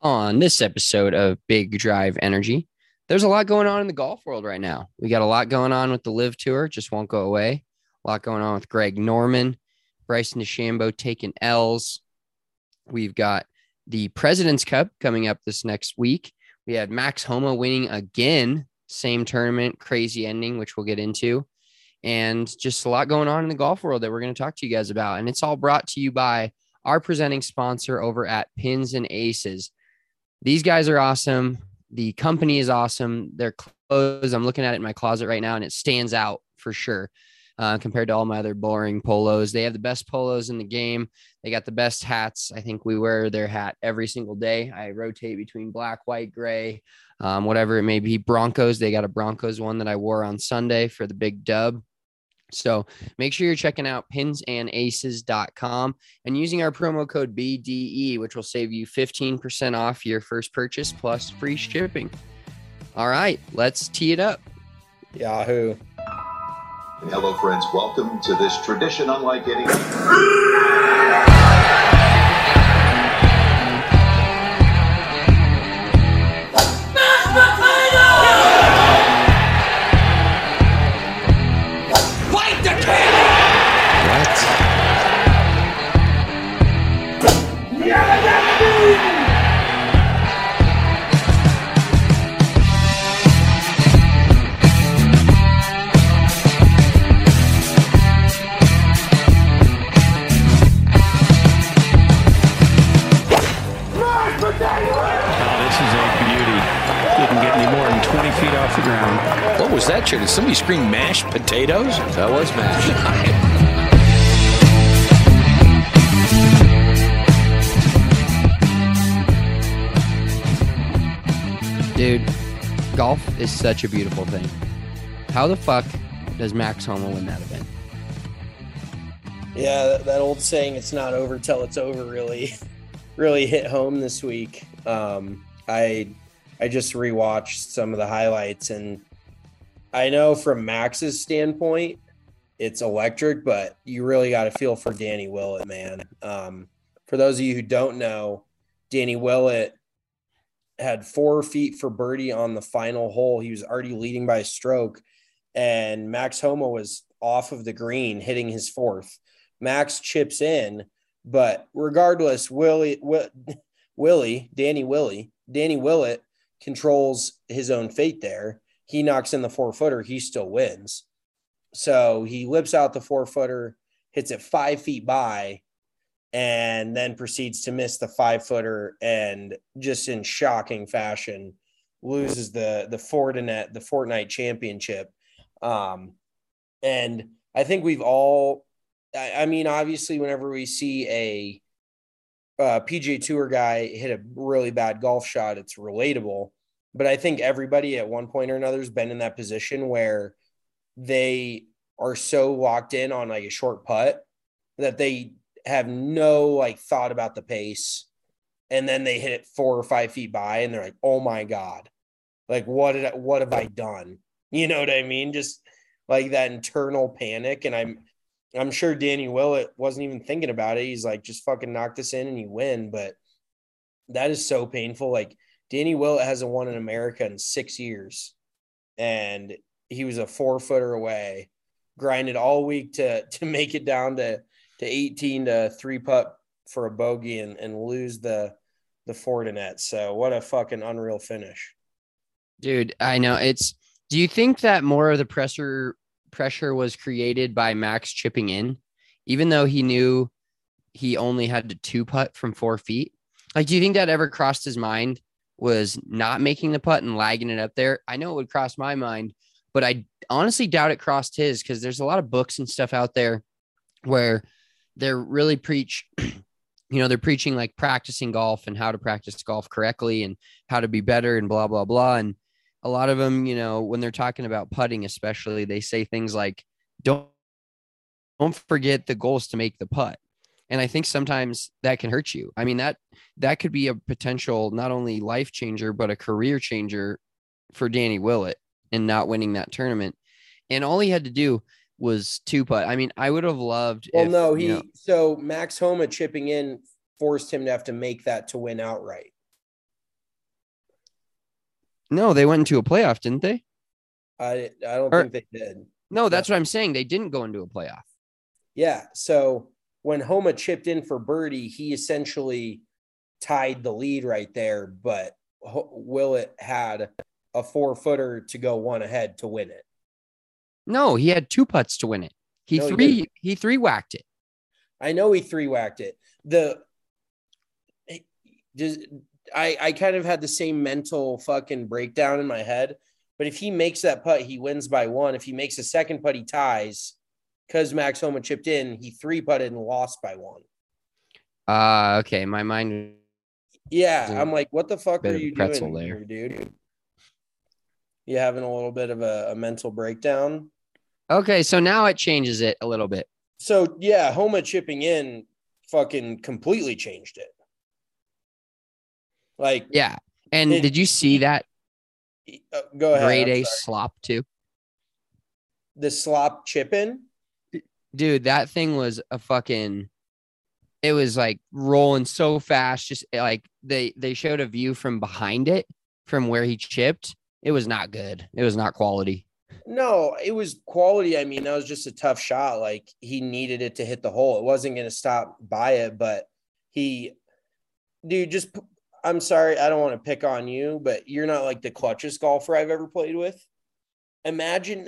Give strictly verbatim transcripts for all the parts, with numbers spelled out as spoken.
On this episode of Big Drive Energy. There's a lot going on in the golf world right now. We got a lot going on with the Live Tour, just won't go away. A lot going on with Greg Norman, Bryson DeChambeau taking L's. We've got the President's Cup coming up this next week. We had Max Homa winning again, same tournament, crazy ending, which we'll get into. And just a lot going on in the golf world that we're going to talk to you guys about. And it's all brought to you by our presenting sponsor over at Pins and Aces. These guys are awesome. The company is awesome. Their clothes, I'm looking at it in my closet right now, and it stands out for sure uh, compared to all my other boring polos. They have the best polos in the game. They got the best hats. I think we wear their hat every single day. I rotate between black, white, gray, um, whatever it may be. Broncos, they got a Broncos one that I wore on Sunday for the big dub. So make sure you're checking out pins and aces dot com and using our promo code B D E, which will save you fifteen percent off your first purchase plus free shipping. All right, let's tee it up. Yahoo. Hello, friends. Welcome to this tradition unlike any. What was that, Chair? Did somebody scream mashed potatoes? That was mashed. Dude, golf is such a beautiful thing. How the fuck does Max Homa win that event? Yeah, that, that old saying, it's not over till it's over, really, really hit home this week. Um, I I just rewatched some of the highlights, and I know from Max's standpoint, it's electric, but you really got to feel for Danny Willett, man. Um, for those of you who don't know, Danny Willett had four feet for birdie on the final hole. He was already leading by a stroke, and Max Homa was off of the green hitting his fourth. Max chips in, but regardless, Willie, Will, Willie, Danny Willie, Danny Willett controls his own fate there. He knocks in the four footer, he still wins. So he lips out the four footer, hits it five feet by, and then proceeds to miss the five footer and just in shocking fashion loses the, the Fortinet, the Fortnite championship. Um, and I think we've all, I, I mean, obviously whenever we see a, uh, P G A Tour guy hit a really bad golf shot, it's relatable. But I think everybody at one point or another has been in that position where they are so locked in on like a short putt that they have no like thought about the pace. And then they hit it four or five feet by and they're like, oh my God, like what did I, what have I done? You know what I mean? Just like that internal panic. And I'm, I'm sure Danny Willett wasn't even thinking about it. He's like, just fucking knock this in and you win. But that is so painful. Like Danny Willett hasn't won in America in six years. And he was a four footer away, grinded all week to, to make it down to, to eighteen to three putt for a bogey and, and lose the, the Fortinet. So what a fucking unreal finish. Dude, I know it's, do you think that more of the pressure pressure was created by Max chipping in, even though he knew he only had to two putt from four feet? Like, do you think that ever crossed his mind, was not making the putt and lagging it up there? I know it would cross my mind, but I honestly doubt it crossed his, because there's a lot of books and stuff out there where they're really preach, you know, they're preaching like practicing golf and how to practice golf correctly and how to be better and blah, blah, blah. And a lot of them, you know, when they're talking about putting, especially, they say things like, don't, don't forget the goal is to make the putt. And I think sometimes that can hurt you. I mean, that, that could be a potential, not only life changer, but a career changer for Danny Willett in not winning that tournament. And all he had to do was two putt. I mean, I would have loved. Well, if, no, he, you know, so Max Homa chipping in forced him to have to make that to win outright. No, they went into a playoff, didn't they? I I don't Or, think they did. no, that's no. what I'm saying. They didn't go into a playoff. Yeah. So when Homa chipped in for birdie, he essentially tied the lead right there, but Willett had a four footer to go one ahead to win it. No, he had two putts to win it. He no, three he, he three whacked it. I know he three whacked it. The just I I kind of had the same mental fucking breakdown in my head. But if he makes that putt, he wins by one. If he makes a second putt, he ties. Because Max Homa chipped in, he three putted and lost by one. Uh okay. My mind. Yeah, I'm like, what the fuck are you doing there, here, dude? You having a little bit of a, a mental breakdown? Okay, so now it changes it a little bit. So yeah, Homa chipping in fucking completely changed it. Like, yeah. And it, did you see that? Uh, go ahead. Grade A slop too. The slop chipping? Dude, that thing was a fucking, it was like rolling so fast. Just like they, they showed a view from behind it, from where he chipped. It was not good. It was not quality. No, it was quality. I mean, that was just a tough shot. Like, he needed it to hit the hole. It wasn't going to stop by it, but he, dude, just, I'm sorry, I don't want to pick on you, but you're not like the clutchest golfer I've ever played with. Imagine,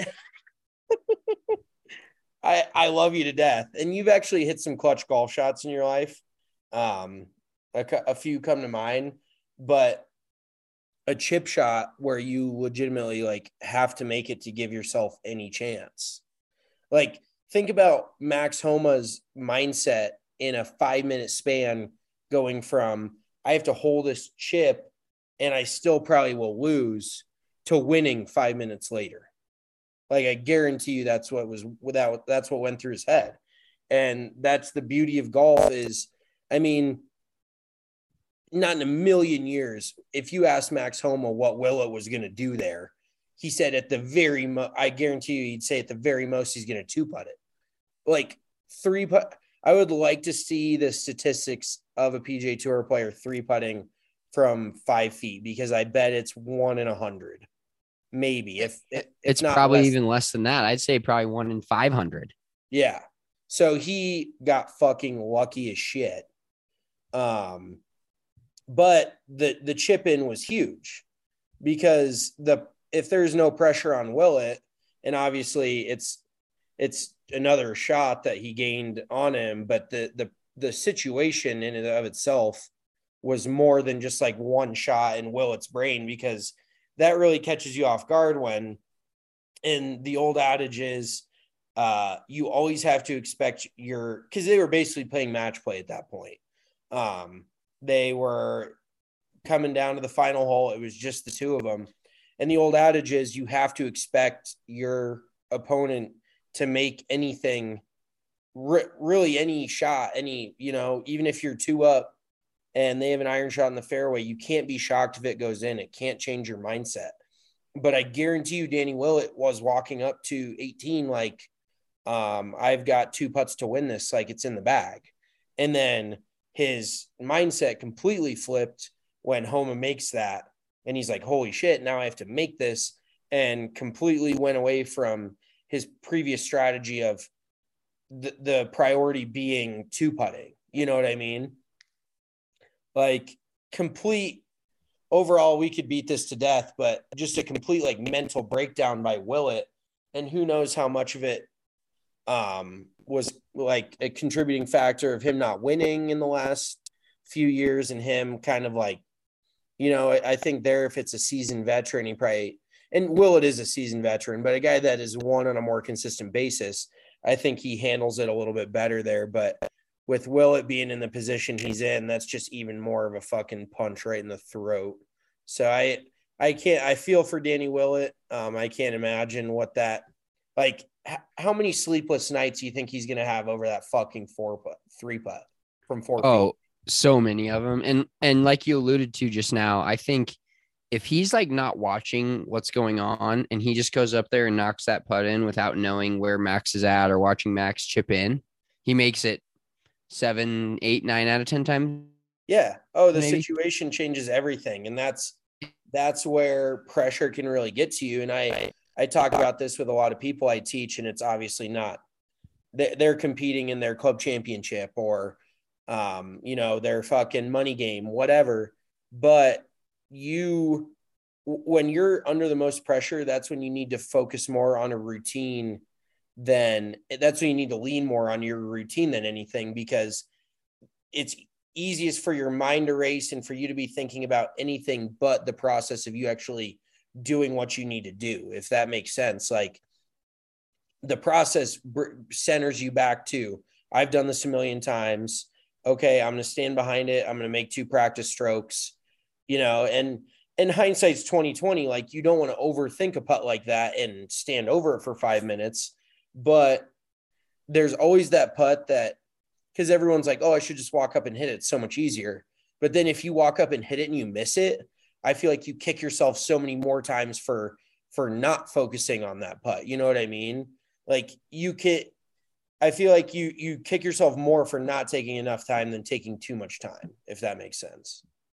I, I love you to death, and you've actually hit some clutch golf shots in your life. Um, a, a few come to mind, but a chip shot where you legitimately like have to make it to give yourself any chance. Like, think about Max Homa's mindset in a five minute span, going from I have to hold this chip and I still probably will lose to winning five minutes later. Like, I guarantee you that's what was without, that's what went through his head. And that's the beauty of golf is, I mean, not in a million years, if you asked Max Homa what Willett was going to do there, he said at the very mo- I guarantee you he'd say at the very most he's going to two putt it. Like three putt. I would like to see the statistics of a P G A Tour player three putting from five feet, because I bet it's one in a hundred, maybe. If, if it's not probably less even than, less than that, I'd say probably one in five hundred. Yeah. So he got fucking lucky as shit. Um, But the the chip in was huge, because the if there's no pressure on Willett, and obviously it's it's another shot that he gained on him, but the the the situation in and of itself was more than just like one shot in Willett's brain, because that really catches you off guard when, and the old adage is, uh, you always have to expect your, because they were basically playing match play at that point. Um, they were coming down to the final hole. It was just the two of them. And the old adage is you have to expect your opponent to make anything, re- really any shot, any, you know, even if you're two up and they have an iron shot in the fairway, you can't be shocked if it goes in. It can't change your mindset. But I guarantee you Danny Willett was walking up to eighteen like, um, I've got two putts to win this, like it's in the bag. And then his mindset completely flipped when Homa makes that. And he's like, holy shit, now I have to make this, and completely went away from his previous strategy of the, the priority being two putting. You know what I mean? Like, complete overall, we could beat this to death, but just a complete like mental breakdown by Willett. And who knows how much of it um, was like a contributing factor of him not winning in the last few years, and him kind of like, you know, I, I think there, if it's a seasoned veteran, he probably, and Willett is a seasoned veteran, but a guy that is won on a more consistent basis, I think he handles it a little bit better there. But with Willett being in the position he's in, that's just even more of a fucking punch right in the throat. So I, I can't, I feel for Danny Willett. Um, I can't imagine what that, like, h- how many sleepless nights do you think he's going to have over that fucking four putt, three putt from four Oh, feet? so many of them. And, and like you alluded to just now, I think if he's like not watching what's going on and he just goes up there and knocks that putt in without knowing where Max is at or watching Max chip in, he makes it seven, eight, nine out of ten times. Yeah. Oh, the maybe. situation changes everything. And that's, that's where pressure can really get to you. And I, I talk about this with a lot of people I teach, and it's obviously not, they're competing in their club championship or, um, you know, their fucking money game, whatever. But you, when you're under the most pressure, that's when you need to focus more on a routine than that's when you need to lean more on your routine than anything, because it's easiest for your mind to race and for you to be thinking about anything but the process of you actually doing what you need to do, if that makes sense. Like the process centers you back to, I've done this a million times. Okay, I'm going to stand behind it. I'm going to make two practice strokes, you know, and in hindsight's twenty twenty, like you don't want to overthink a putt like that and stand over it for five minutes. But there's always that putt that, because everyone's like, oh, I should just walk up and hit it. It's so much easier. But then if you walk up and hit it and you miss it, I feel like you kick yourself so many more times for, for not focusing on that putt. You know what I mean? Like you can, I feel like you, you kick yourself more for not taking enough time than taking too much time, if that makes sense.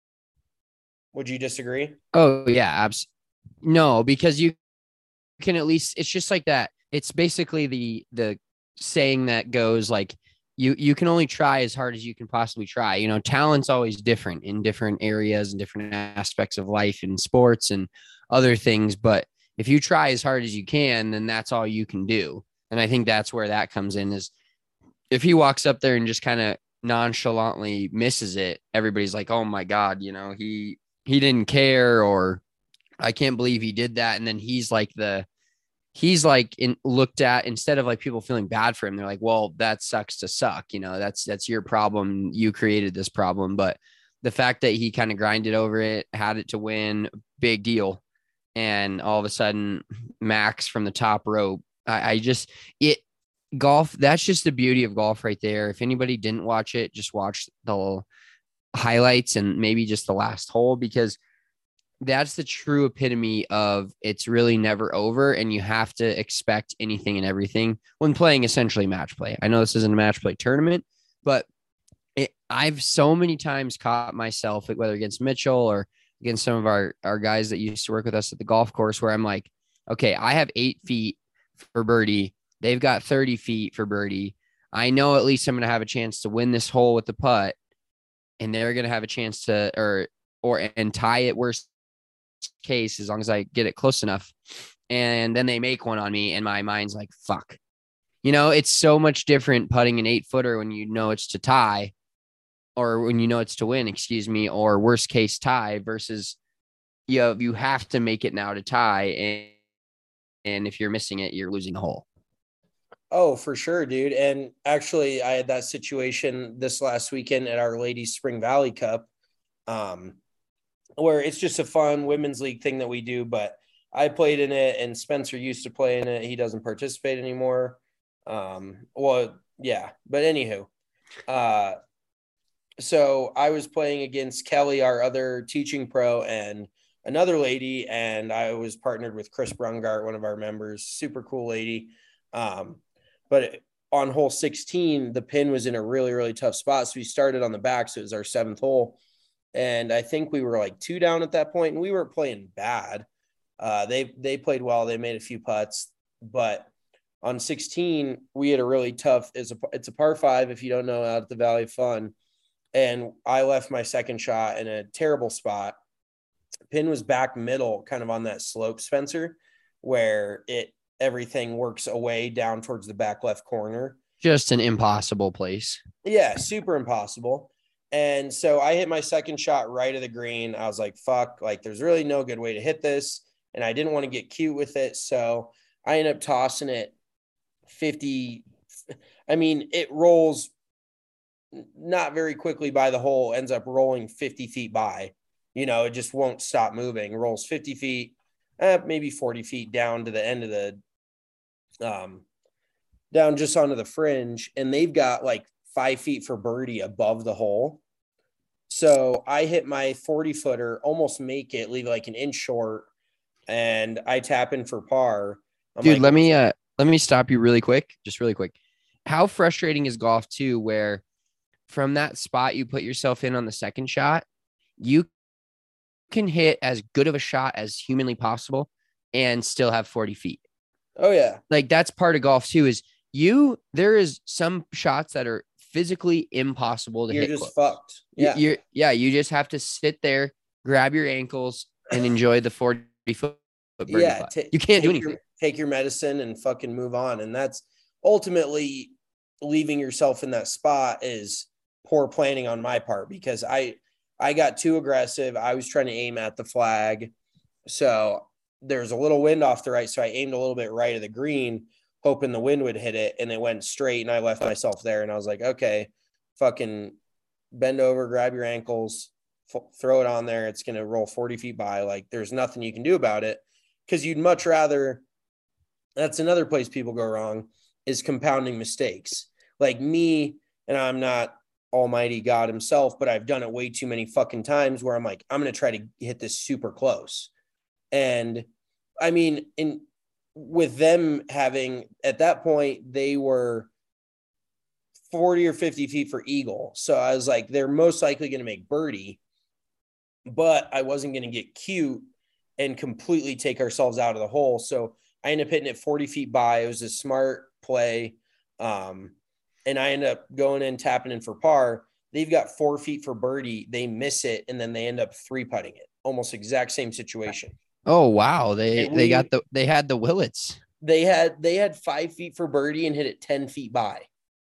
Would you disagree? Oh yeah. Abs- no, because you can at least, it's just like that. It's basically the, the saying that goes like, you, you can only try as hard as you can possibly try. You know, talent's always different in different areas and different aspects of life and sports and other things. But if you try as hard as you can, then that's all you can do. And I think that's where that comes in, is if he walks up there and just kind of nonchalantly misses it, everybody's like, oh my God, you know, he, he didn't care, or I can't believe he did that. And then he's like the, he's like in looked at, instead of like people feeling bad for him, they're like, well, that sucks to suck. You know, that's, that's your problem. You created this problem. But the fact that he kind of grinded over it, had it to win, big deal. And all of a sudden Max from the top rope, I, I just, it golf, that's just the beauty of golf right there. If anybody didn't watch it, just watch the highlights and maybe just the last hole, because that's the true epitome of it's really never over, and you have to expect anything and everything when playing essentially match play. I know this isn't a match play tournament, but it, I've so many times caught myself, whether against Mitchell or against some of our, our guys that used to work with us at the golf course, where I'm like, okay, I have eight feet for birdie. They've got thirty feet for birdie. I know at least I'm going to have a chance to win this hole with the putt, and they're going to have a chance to, or, or, and tie it worst case, as long as I get it close enough. And then they make one on me, and my mind's like, fuck. You know, it's so much different putting an eight footer when you know it's to tie, or when you know it's to win, excuse me, or worst case tie, versus you know, you have to make it now to tie. And, and if you're missing it, you're losing the hole. Oh, for sure, dude. And actually I had that situation this last weekend at our Ladies Spring Valley Cup, um, where it's just a fun women's league thing that we do, but I played in it and Spencer used to play in it. He doesn't participate anymore. Um, well, yeah, but anywho, uh, so I was playing against Kelly, our other teaching pro, and another lady, and I was partnered with Chris Brungart, one of our members, super cool lady. Um, but on hole sixteen, the pin was in a really, really tough spot. So we started on the back. So it was our seventh hole. And I think we were like two down at that point, and we weren't playing bad. Uh, they, they played well. They made a few putts, but on sixteen, we had a really tough, it's a, it's a par five, if you don't know, out at the Valley of Fun. And I left my second shot in a terrible spot. Pin was back middle, kind of on that slope, Spencer, where it, everything works away down towards the back left corner. Just an impossible place. Yeah, super impossible. And so I hit my second shot right of the green. I was like, fuck, like there's really no good way to hit this. And I didn't want to get cute with it. So I ended up tossing it fifty. I mean, it rolls not very quickly by the hole, ends up rolling fifty feet by. You know, it just won't stop moving. It rolls fifty feet, eh, maybe forty feet down to the end of the, um, down just onto the fringe. And they've got like five feet for birdie above the hole. So I hit my forty footer, almost make it, leave like an inch short, and I tap in for par. I'm Dude, like, let me, uh, let me stop you really quick. Just really quick. How frustrating is golf too, where from that spot you put yourself in on the second shot, you can hit as good of a shot as humanly possible and still have forty feet. Oh yeah. Like that's part of golf too, is you, there is some shots that are physically impossible to You're hit. just close. fucked. Yeah. You're, yeah. You just have to sit there, grab your ankles and enjoy the forty foot. Yeah. T- you can't do anything. Your, take your medicine and fucking move on. And that's ultimately leaving yourself in that spot is poor planning on my part, because I, I got too aggressive. I was trying to aim at the flag. So there's a little wind off the right. So I aimed a little bit right of the green, hoping the wind would hit it. And it went straight. And I left myself there. And I was like, okay, fucking bend over, grab your ankles, f- throw it on there. It's going to roll forty feet by. Like there's nothing you can do about it. Cause you'd much rather, that's another place people go wrong, is compounding mistakes. Like me, and I'm not almighty God himself, but I've done it way too many fucking times where I'm like, I'm going to try to hit this super close. And I mean, in with them having, at that point, they were forty or fifty feet for eagle. So I was like, they're most likely going to make birdie, but I wasn't going to get cute and completely take ourselves out of the hole. So I ended up hitting it forty feet by. It was a smart play. Um, and I ended up going in, tapping in for par. They've got four feet for birdie. They miss it. And then they end up three putting it. Almost exact same situation. Oh, wow. They, And they we- got the, they had the Willets. They had, they had five feet for birdie and hit it ten feet by.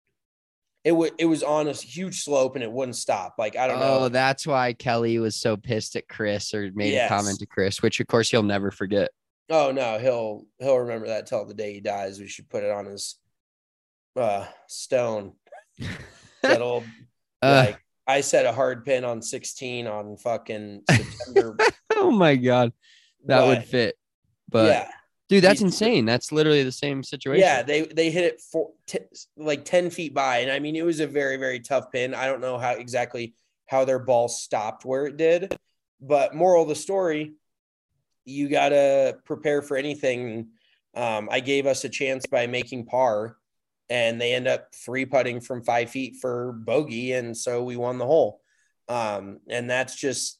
It was, it was on a huge slope and it wouldn't stop. Like, I don't Oh, know. that's why Kelly was so pissed at Chris, or made Yes. a comment to Chris, which of course he'll never forget. Oh no, he'll, he'll remember that till the day he dies. We should put it on his uh, stone. That'll Uh, like, I set a hard pin on sixteen on fucking September. oh my God. That but, would fit. But yeah, dude, that's He's- insane. That's literally the same situation. yeah, they they hit it for t- like ten feet by, and I mean it was a very very tough pin. I don't know how exactly how their ball stopped where it did, but moral of the story, you gotta prepare for anything. Um, I gave us a chance by making par, and they end up three putting from five feet for bogey, and so we won the hole. Um, and that's just.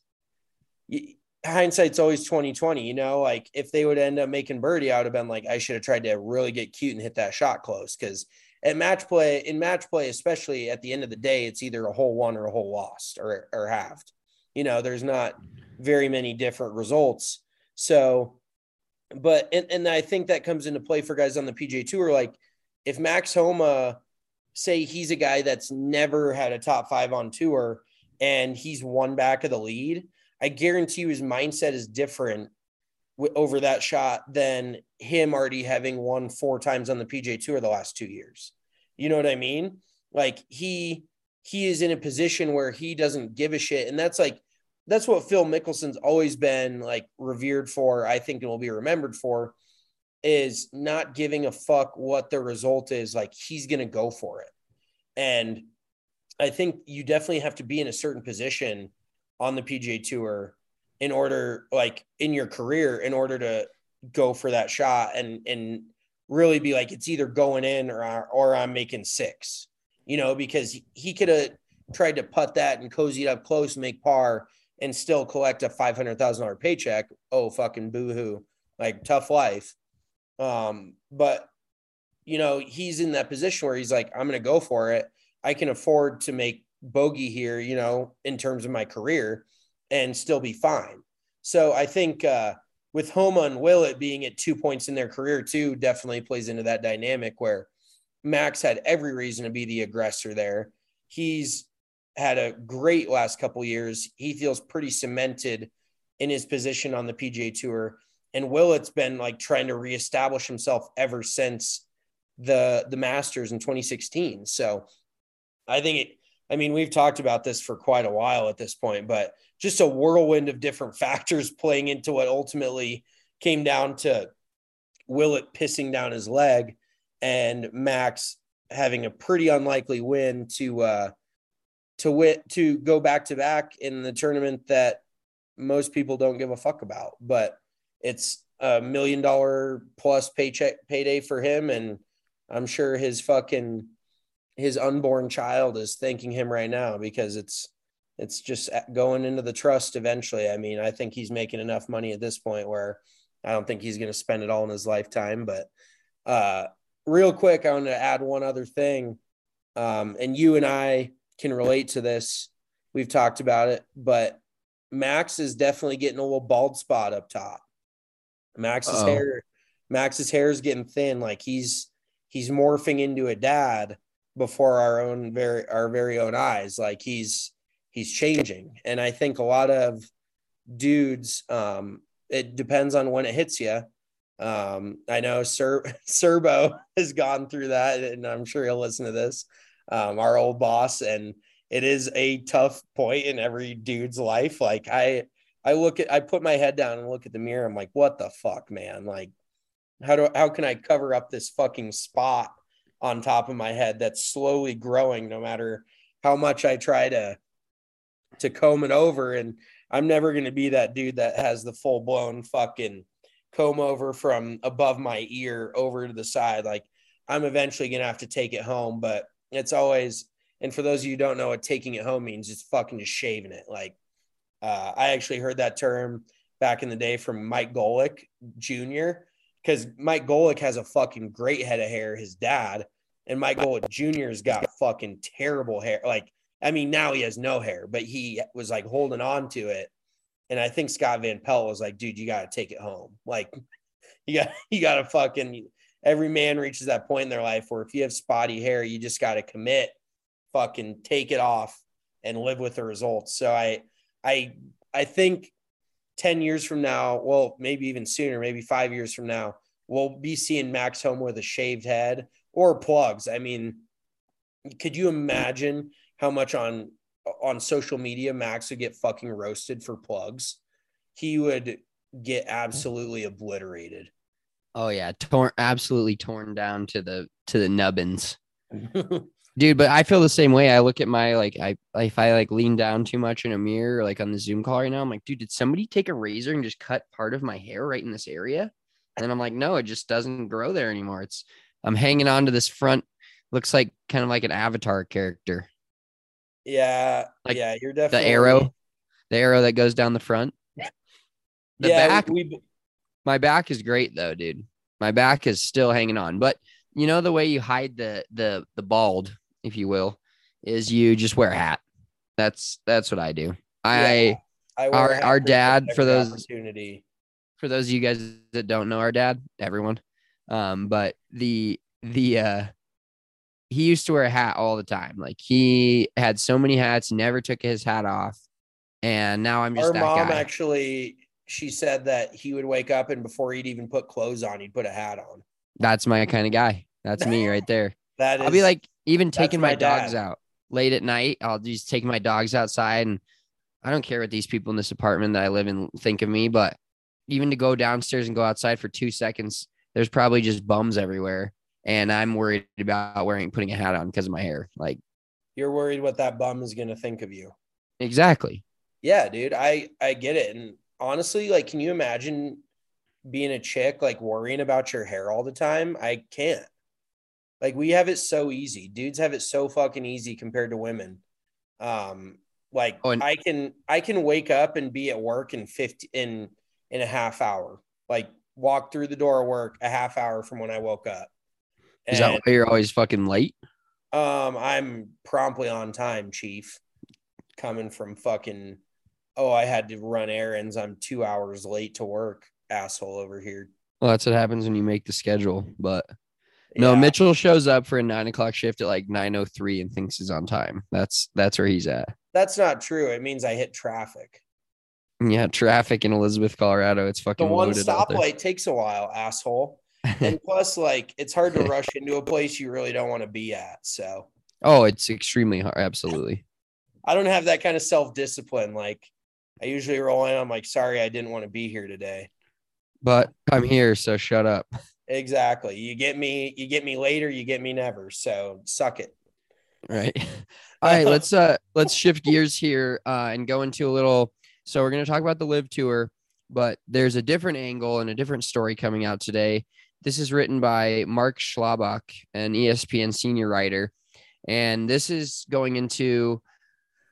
Hindsight's always twenty twenty, you know, like if they would end up making birdie, I would have been like, I should have tried to really get cute and hit that shot close. Cause at match play, in match play, especially at the end of the day, it's either a hole won or a hole lost or, or halved. You know, there's not very many different results. So, but, and, and I think that comes into play for guys on the P G A Tour. Like if Max Homa, say he's a guy that's never had a top five on tour and he's one back of the lead, I guarantee you his mindset is different w- over that shot than him already having won four times on the P G A Tour the last two years. You know what I mean? Like he, he is in a position where he doesn't give a shit. And that's like, that's what Phil Mickelson's always been like revered for. I think, and will be remembered for, is not giving a fuck what the result is. Like he's going to go for it. And I think you definitely have to be in a certain position on the P G A Tour in order, like in your career, in order to go for that shot and, and really be like, it's either going in or, or I'm making six, you know, because he, he could have tried to putt that and cozy it up close, make par and still collect a five hundred thousand dollars paycheck. Oh, fucking boo-hoo. Like tough life. Um, but you know, he's in that position where he's like, I'm going to go for it. I can afford to make bogey here, you know, in terms of my career and still be fine. So I think uh, with Homa and Willett being at two points in their career too, definitely plays into that dynamic where Max had every reason to be the aggressor there. He's had a great last couple years. He feels pretty cemented in his position on the P G A Tour. And Willett's been like trying to reestablish himself ever since the, the Masters in twenty sixteen. So I think it, I mean, we've talked about this for quite a while at this point, but just a whirlwind of different factors playing into what ultimately came down to Willett pissing down his leg and Max having a pretty unlikely win to, uh, to wit, to go back to back in the tournament that most people don't give a fuck about, but it's a million dollar plus paycheck payday for him. And I'm sure his fucking, his unborn child is thanking him right now because it's, It's just going into the trust eventually. I mean, I think he's making enough money at this point where I don't think he's going to spend it all in his lifetime. But uh, real quick, I want to add one other thing. Um, and you and I can relate to this. We've talked about it, but Max is definitely getting a little bald spot up top. Max's Uh-oh. hair, Max's hair is getting thin. Like he's, he's morphing into a dad before our own very, our very own eyes. Like he's, he's changing. And I think a lot of dudes, um, it depends on when it hits you. Um, I know Sir Serbo has gone through that, and I'm sure he'll listen to this. Um, our old boss, and it is a tough point in every dude's life. Like I, I look at, I put my head down and look at the mirror. I'm like, what the fuck, man? Like, how do, how can I cover up this fucking spot on top of my head that's slowly growing, no matter how much I try to, to comb it over? And I'm never going to be that dude that has the full blown fucking comb over from above my ear over to the side. Like I'm eventually going to have to take it home, but it's always, and for those of you who don't know what taking it home means, it's fucking just shaving it. Like uh, I actually heard that term back in the day from Mike Golick Junior, because Mike Golick has a fucking great head of hair, his dad, and Mike Golick Junior's got fucking terrible hair. Like, I mean, now he has no hair, but he was like holding on to it. And I think Scott Van Pelt was like, dude, you got to take it home. Like you got, you got to fucking, every man reaches that point in their life where if you have spotty hair, you just got to commit, fucking take it off and live with the results. So I, I, I think ten years from now, well, maybe even sooner, maybe five years from now, we'll be seeing Max home with a shaved head or plugs. I mean, could you imagine how much on, on social media Max would get fucking roasted for plugs? He would get absolutely obliterated. Oh yeah, torn, absolutely torn down to the to the nubbins, dude. But I feel the same way. I look at my like, I if I like lean down too much in a mirror, like on the Zoom call right now, I'm like, dude, did somebody take a razor and just cut part of my hair right in this area? And I'm like, no, it just doesn't grow there anymore. It's I'm hanging on to this front. Looks like kind of like an Avatar character. Yeah, like yeah, you're definitely the arrow, the arrow that goes down the front. The yeah, back. we, we My back is great though, dude. My back is still hanging on. But you know the way you hide the the the bald, if you will, is you just wear a hat. That's that's what I do. I, yeah, I wear our a hat our for dad for every those opportunity. for those of you guys that don't know our dad, everyone. Um, but the the uh he used to wear a hat all the time. Like he had so many hats, never took his hat off. And now I'm just Our that mom guy. actually, she said that he would wake up and before he'd even put clothes on, he'd put a hat on. That's my kind of guy. That's me right there. That I'll be is, like even that's taking my, my dogs dad. out late at night. I'll just take my dogs outside, and I don't care what these people in this apartment that I live in think of me, but even to go downstairs and go outside for two seconds, there's probably just bums everywhere. And I'm worried about wearing, putting a hat on because of my hair. Like, You're worried what that bum is going to think of you. exactly. Yeah, dude, I, I get it. And honestly, like, can you imagine being a chick, like worrying about your hair all the time? I can't. Like, we have it so easy. Dudes have it so fucking easy compared to women. Um, like Oh, and I can, I can wake up and be at work in fifty in, in a half hour, like walk through the door of work a half hour from when I woke up. is that And why you're always fucking late? um, I'm promptly on time, chief, coming from fucking, oh, I had to run errands. I'm two hours late to work, asshole over here. Well, that's what happens when you make the schedule. But no, Yeah, Mitchell shows up for a nine o'clock shift at like nine oh three and thinks he's on time. That's that's where he's at. that's not true. It means I hit traffic. Yeah, traffic in Elizabeth, Colorado. It's The fucking one loaded out there. stoplight takes a while, asshole. And plus, like, it's hard to rush into a place you really don't want to be at. So Oh, it's extremely hard. Absolutely. I don't have that kind of self-discipline. Like, I usually roll in, I'm like, sorry, I didn't want to be here today. But I'm here, so shut up. Exactly. You get me, you get me later, you get me never. So suck it. Right. All right, let's uh let's shift gears here uh and go into a little. So we're gonna talk about the Live Tour, but there's a different angle and a different story coming out today. This is written by Mark Schlabach, an E S P N senior writer, and this is going into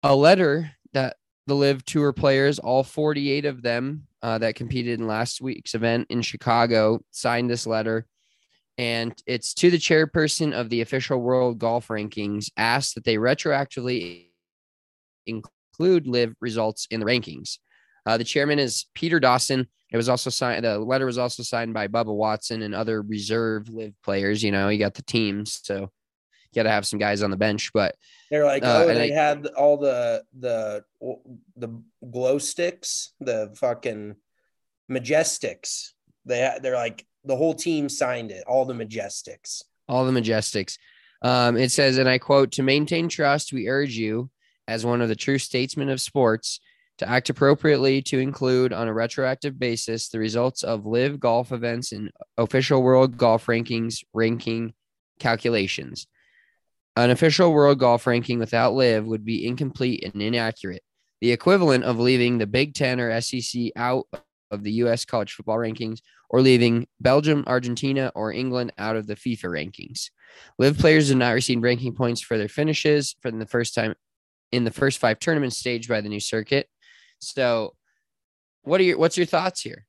a letter that the Live Tour players, all forty-eight of them uh, that competed in last week's event in Chicago, signed this letter. And it's to the chairperson of the official World Golf Rankings, asked that they retroactively include Live results in the rankings. Uh, the chairman is Peter Dawson. It was also signed. The letter was also signed by Bubba Watson and other reserve Live players. You know, you got the teams, so you got to have some guys on the bench. But they're like, uh, oh, they I, had all the the the glow sticks, the fucking Majestics. They they're like the whole team signed it. All the Majestics. All the Majestics. Um, it says, and I quote, "To maintain trust, we urge you, as one of the true statesmen of sports, to act appropriately to include on a retroactive basis the results of Live golf events in official World Golf Rankings ranking calculations. An official World Golf Ranking without Live would be incomplete and inaccurate, the equivalent of leaving the Big Ten or S E C out of the U S college football rankings, or leaving Belgium, Argentina, or England out of the FIFA rankings. Live players did not receive ranking points for their finishes for the first time in the first five tournaments staged by the new circuit." So what are your, what's your thoughts here?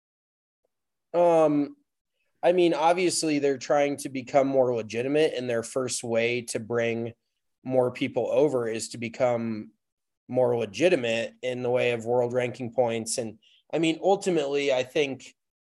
Um, I mean, obviously they're trying to become more legitimate, and their first way to bring more people over is to become more legitimate in the way of world ranking points. And I mean, ultimately, I think,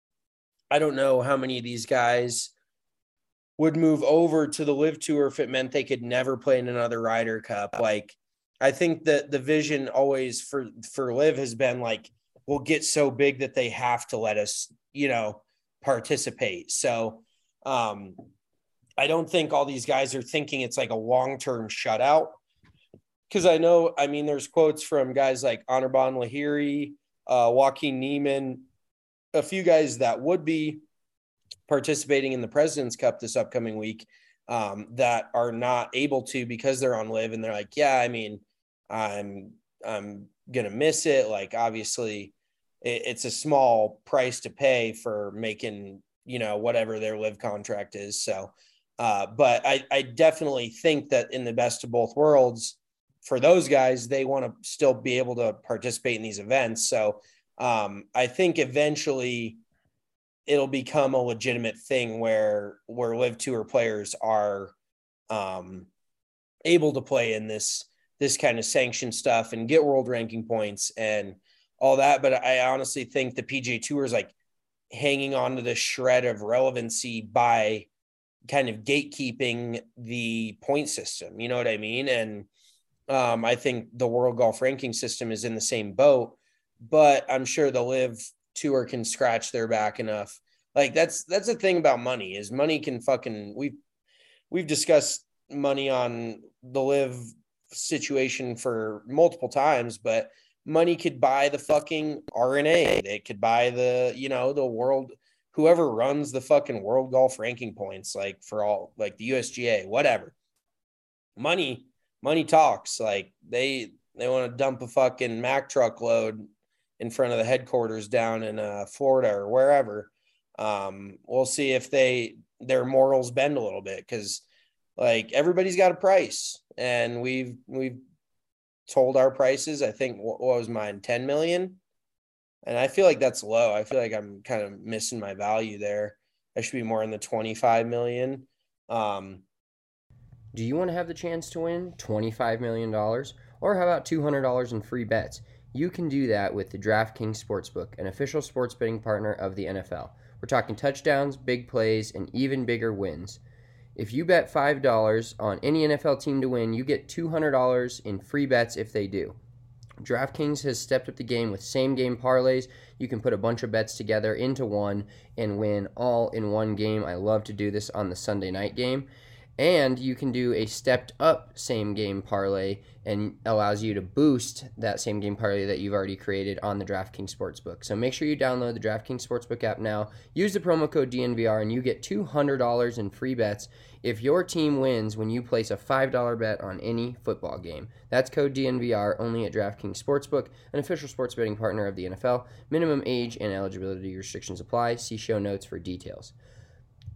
I don't know how many of these guys would move over to the Live Tour if it meant they could never play in another Ryder Cup. Like, I think that the vision always for, for Live has been like, we'll get so big that they have to let us, you know, participate. So um, I don't think all these guys are thinking it's like a long-term shutout. Because I know, I mean, there's quotes from guys like Anirban Lahiri, uh, Joaquin Niemann, a few guys that would be participating in the President's Cup this upcoming week, um, that are not able to because they're on Live. And they're like, yeah, I mean, I'm, I'm going to miss it. Like, obviously it, it's a small price to pay for making, you know, whatever their Live contract is. So, uh, but I, I definitely think that in the best of both worlds for those guys, they want to still be able to participate in these events. So, um, I think eventually it'll become a legitimate thing where, where Live Tour players are um, able to play in this, this kind of sanctioned stuff and get world ranking points and all that. But I honestly think the P G A Tour is like hanging on to this shred of relevancy by kind of gatekeeping the point system. You know what I mean? And um, I think the World Golf Ranking system is in the same boat, but I'm sure the Live Tour can scratch their back enough. Like that's, that's the thing about money is money can fucking, we've, we've discussed money on the Live situation for multiple times, but money could buy the fucking R N A. It could buy the, you know, the world, whoever runs the fucking World Golf Ranking points, like for all, like the U S G A, whatever. Money, money talks. Like they, they want to dump a fucking Mack truck load in front of the headquarters down in uh, Florida or wherever. Um, we'll see if they, their morals bend a little bit. Cause like everybody's got a price and we've, we've told our prices. I think what, what was mine? ten million. And I feel like that's low. I feel like I'm kind of missing my value there. I should be more in the twenty-five million. Um, Do you want to have the chance to win twenty-five million dollars? Or how about two hundred dollars in free bets? You can do that with the DraftKings Sportsbook, an official sports betting partner of the N F L. We're talking touchdowns, big plays, and even bigger wins. If you bet five dollars on any N F L team to win, you get two hundred dollars in free bets if they do. DraftKings has stepped up the game with same-game parlays. You can put a bunch of bets together into one and win all in one game. I love to do this on the Sunday night game. And you can do a stepped-up same-game parlay and allows you to boost that same-game parlay that you've already created on the DraftKings Sportsbook. So make sure you download the DraftKings Sportsbook app now. Use the promo code D N V R and you get two hundred dollars in free bets if your team wins when you place a five dollars bet on any football game. That's code D N V R only at DraftKings Sportsbook, an official sports betting partner of the N F L. Minimum age and eligibility restrictions apply. See show notes for details.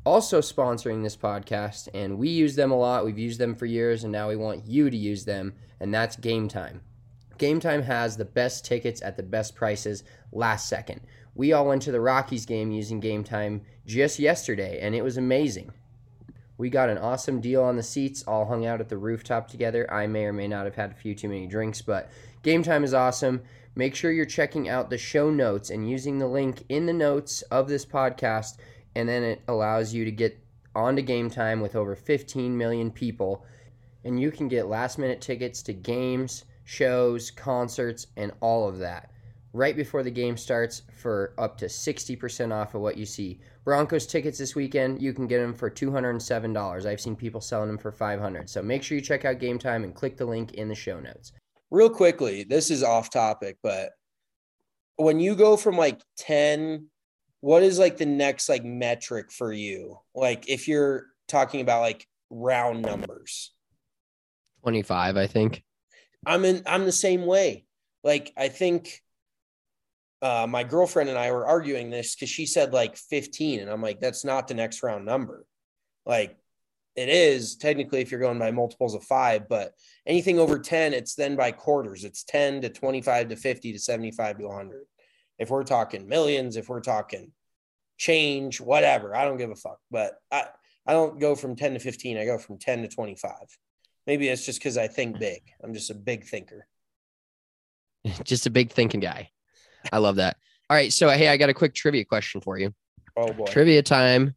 also sponsoring this podcast, and we use them a lot. We've used them for years, and now we want you to use them, and that's Game Time. Game Time has the best tickets at the best prices last second. We all went to the Rockies game using Game Time just yesterday, and it was amazing. We got an awesome deal on the seats, all hung out at the rooftop together. I may or may not have had a few too many drinks, but Game Time is awesome. Make sure you're checking out the show notes and using the link in the notes of this podcast, and then it allows you to get onto Game Time with over fifteen million people, and you can get last-minute tickets to games, shows, concerts, and all of that right before the game starts for up to sixty percent off of what you see. Broncos tickets this weekend, you can get them for two hundred seven dollars. I've seen people selling them for five hundred dollars. So make sure you check out Game Time and click the link in the show notes. Real quickly, this is off topic, but when you go from like ten, what is like the next like metric for you? Like if you're talking about like round numbers. twenty-five, I think. I'm in, I'm the same way. Like, I think uh, my girlfriend and I were arguing this because she said like fifteen. And I'm like, that's not the next round number. Like, it is technically if you're going by multiples of five, but anything over ten, it's then by quarters. It's ten to twenty-five to fifty to seventy-five to one hundred. If we're talking millions, if we're talking change, whatever, I don't give a fuck. But I, I don't go from ten to fifteen. I go from ten to twenty-five. Maybe it's just because I think big. I'm just a big thinker. Just a big thinking guy. I love that. All right. So, hey, I got a quick trivia question for you. Oh, boy. Trivia time.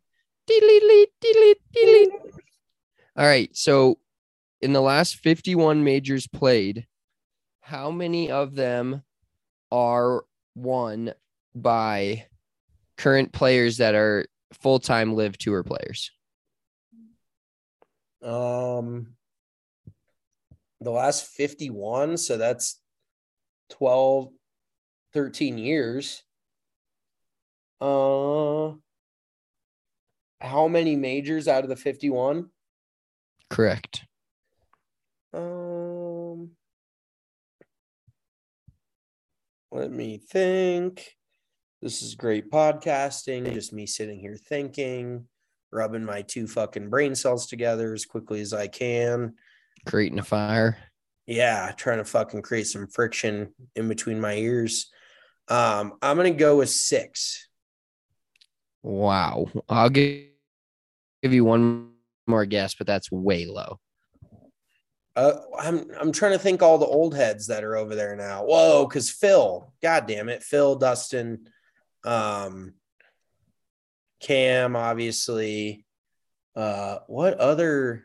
All right. So, in the last fifty-one majors played, how many of them are won by current players that are full-time Live Tour players? Um, the last fifty-one, so that's twelve, thirteen years. Uh, how many majors out of the fifty-one? Correct. Um, let me think. This is great podcasting. Just me sitting here thinking, rubbing my two fucking brain cells together as quickly as I can. Creating a fire. Yeah, trying to fucking create some friction in between my ears. Um, I'm going to go with six. Wow. I'll give, give you one more guess, but that's way low. Uh, I'm I'm trying to think all the old heads that are over there now. Whoa, because Phil, God damn it, Phil, Dustin, um, Cam, obviously. Uh, what other?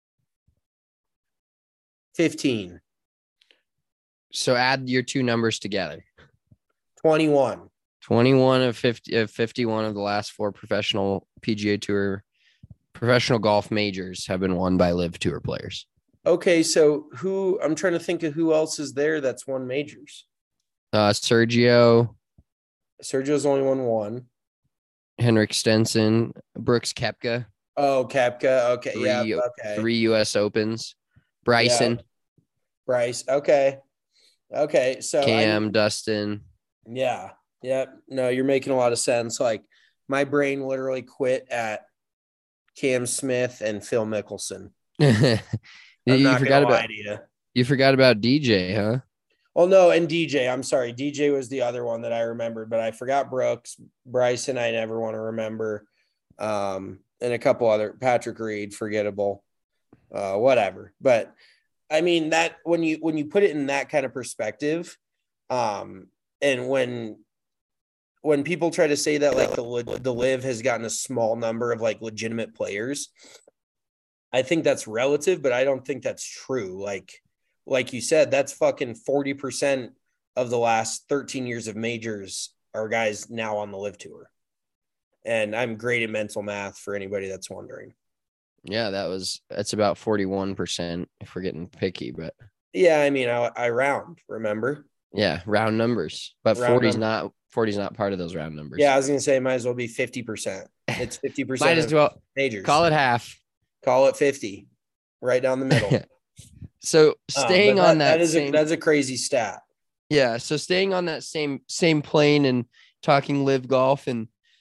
fifteen. So add your two numbers together. twenty-one. twenty-one of fifty of fifty-one of the last four professional P G A Tour professional golf majors have been won by Live Tour players. Okay, so who I'm trying to think of who else is there that's won majors. Uh, Sergio, Sergio's only won one. Henrik Stenson, Brooks Koepka. Oh, Koepka. Okay, Three, yeah, okay. Three U S Opens. Bryson. Yeah. Bryce. Okay. Okay. So Cam, I, Dustin. Yeah. Yeah. No, you're making a lot of sense. Like my brain literally quit at Cam Smith and Phil Mickelson. I'm you not forgot gonna lie about to you. You forgot about D J, huh? Oh no, and D J. I'm sorry. D J was the other one that I remembered, but I forgot Brooks. Bryson, I never want to remember. Um, and a couple other Patrick Reed, forgettable. Uh, whatever. But I mean that when you when you put it in that kind of perspective, um, and when when people try to say that like the the Live has gotten a small number of like legitimate players, I think that's relative, but I don't think that's true. Like like you said, that's fucking forty percent of the last thirteen years of majors are guys now on the Live Tour. And I'm great at mental math for anybody that's wondering. Yeah, that was that's about forty-one percent if we're getting picky, but yeah, I mean, I, I round, remember? Yeah, round numbers, but forty's not forty's not part of those round numbers. Yeah, I was gonna say it might as well be fifty percent. It's fifty percent. Might as well majors. Call it half. Call it fifty, right down the middle. So staying um, that, on that, that is same, a, that's a crazy stat. Yeah, so staying on that same same plane and talking Live golf, and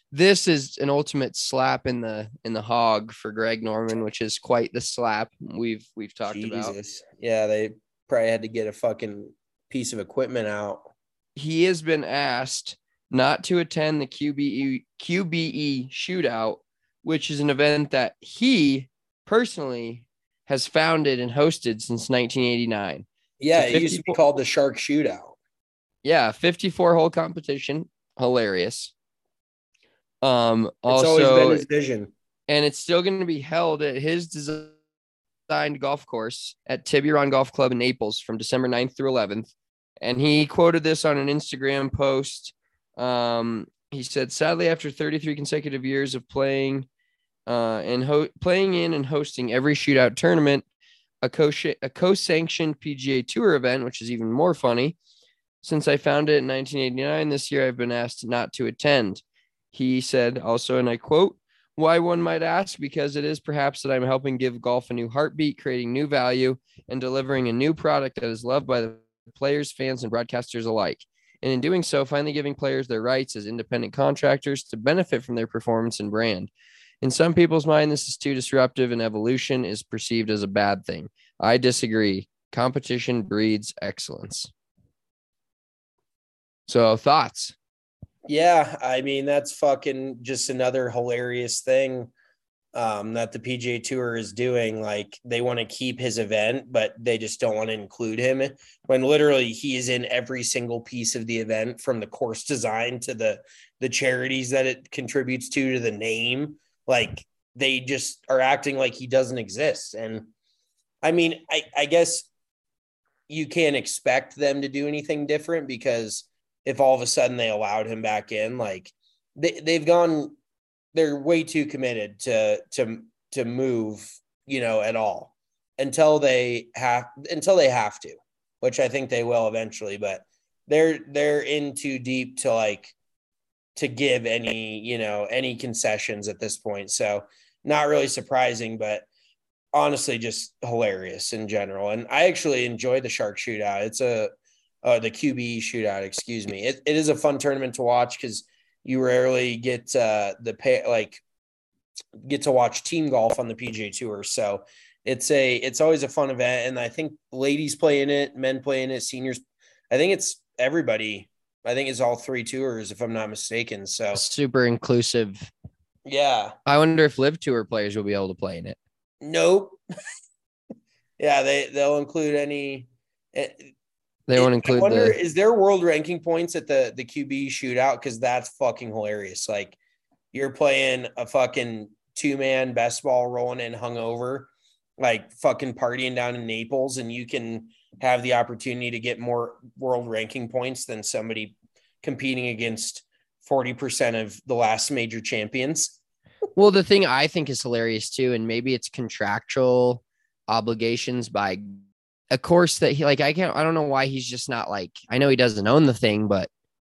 this is an ultimate slap in the in the hog for Greg Norman, which is quite the slap we've we've talked about. Jesus. Yeah, they probably had to get a fucking piece of equipment out. He has been asked not to attend the Q B E Q B E shootout, which is an event that he personally has founded and hosted since nineteen eighty-nine. Yeah, it used to be called the Shark Shootout. Yeah, fifty-four hole competition. Hilarious. Um, It's also, always been his vision. And it's still going to be held at his designed golf course at Tiburon Golf Club in Naples from December ninth through eleventh. And he quoted this on an Instagram post. Um, he said, sadly, after thirty-three consecutive years of playing uh, and ho- playing in and hosting every shootout tournament, a, co- a co-sanctioned P G A Tour event, which is even more funny, since I founded it in nineteen eighty-nine, this year I've been asked not to attend. He said also, and I quote, why one might ask, because it is perhaps that I'm helping give golf a new heartbeat, creating new value, and delivering a new product that is loved by the players, fans, and broadcasters alike. And in doing so, finally giving players their rights as independent contractors to benefit from their performance and brand. In some people's mind, this is too disruptive, and evolution is perceived as a bad thing. I disagree. Competition breeds excellence. So, thoughts? Yeah, I mean, that's fucking just another hilarious thing um, that the P G A Tour is doing. Like, they want to keep his event, but they just don't want to include him, when literally he is in every single piece of the event, from the course design to the the charities that it contributes to, to the name. Like, they just are acting like he doesn't exist. And I mean, I, I guess you can't expect them to do anything different, because if all of a sudden they allowed him back in, like they, they've gone, they're way too committed to, to, to move, you know, at all until they have, until they have to, which I think they will eventually, but they're, they're in too deep to like, to give any, you know, any concessions at this point. So not really surprising, but honestly, just hilarious in general. And I actually enjoy the Shark Shootout. It's a, Uh, the Q B E shootout, excuse me. It, it is a fun tournament to watch, because you rarely get uh, the pay, like get to watch team golf on the P G A Tour. So it's a it's always a fun event, and I think ladies play in it, men play in it, seniors. I think it's everybody. I think it's all three tours, if I'm not mistaken. So super inclusive. Yeah. I wonder if Live Tour players will be able to play in it. Nope. yeah, they they'll include any. It, They won't include. I wonder, the... is there world ranking points at the the Q B shootout? Because that's fucking hilarious. Like, you're playing a fucking two man best ball rolling in hungover, like fucking partying down in Naples, and you can have the opportunity to get more world ranking points than somebody competing against forty percent of the last major champions. Well, the thing I think is hilarious too, and maybe it's contractual obligations by a course that he like, I can't, I don't know why he's just not like, I know he doesn't own the thing, but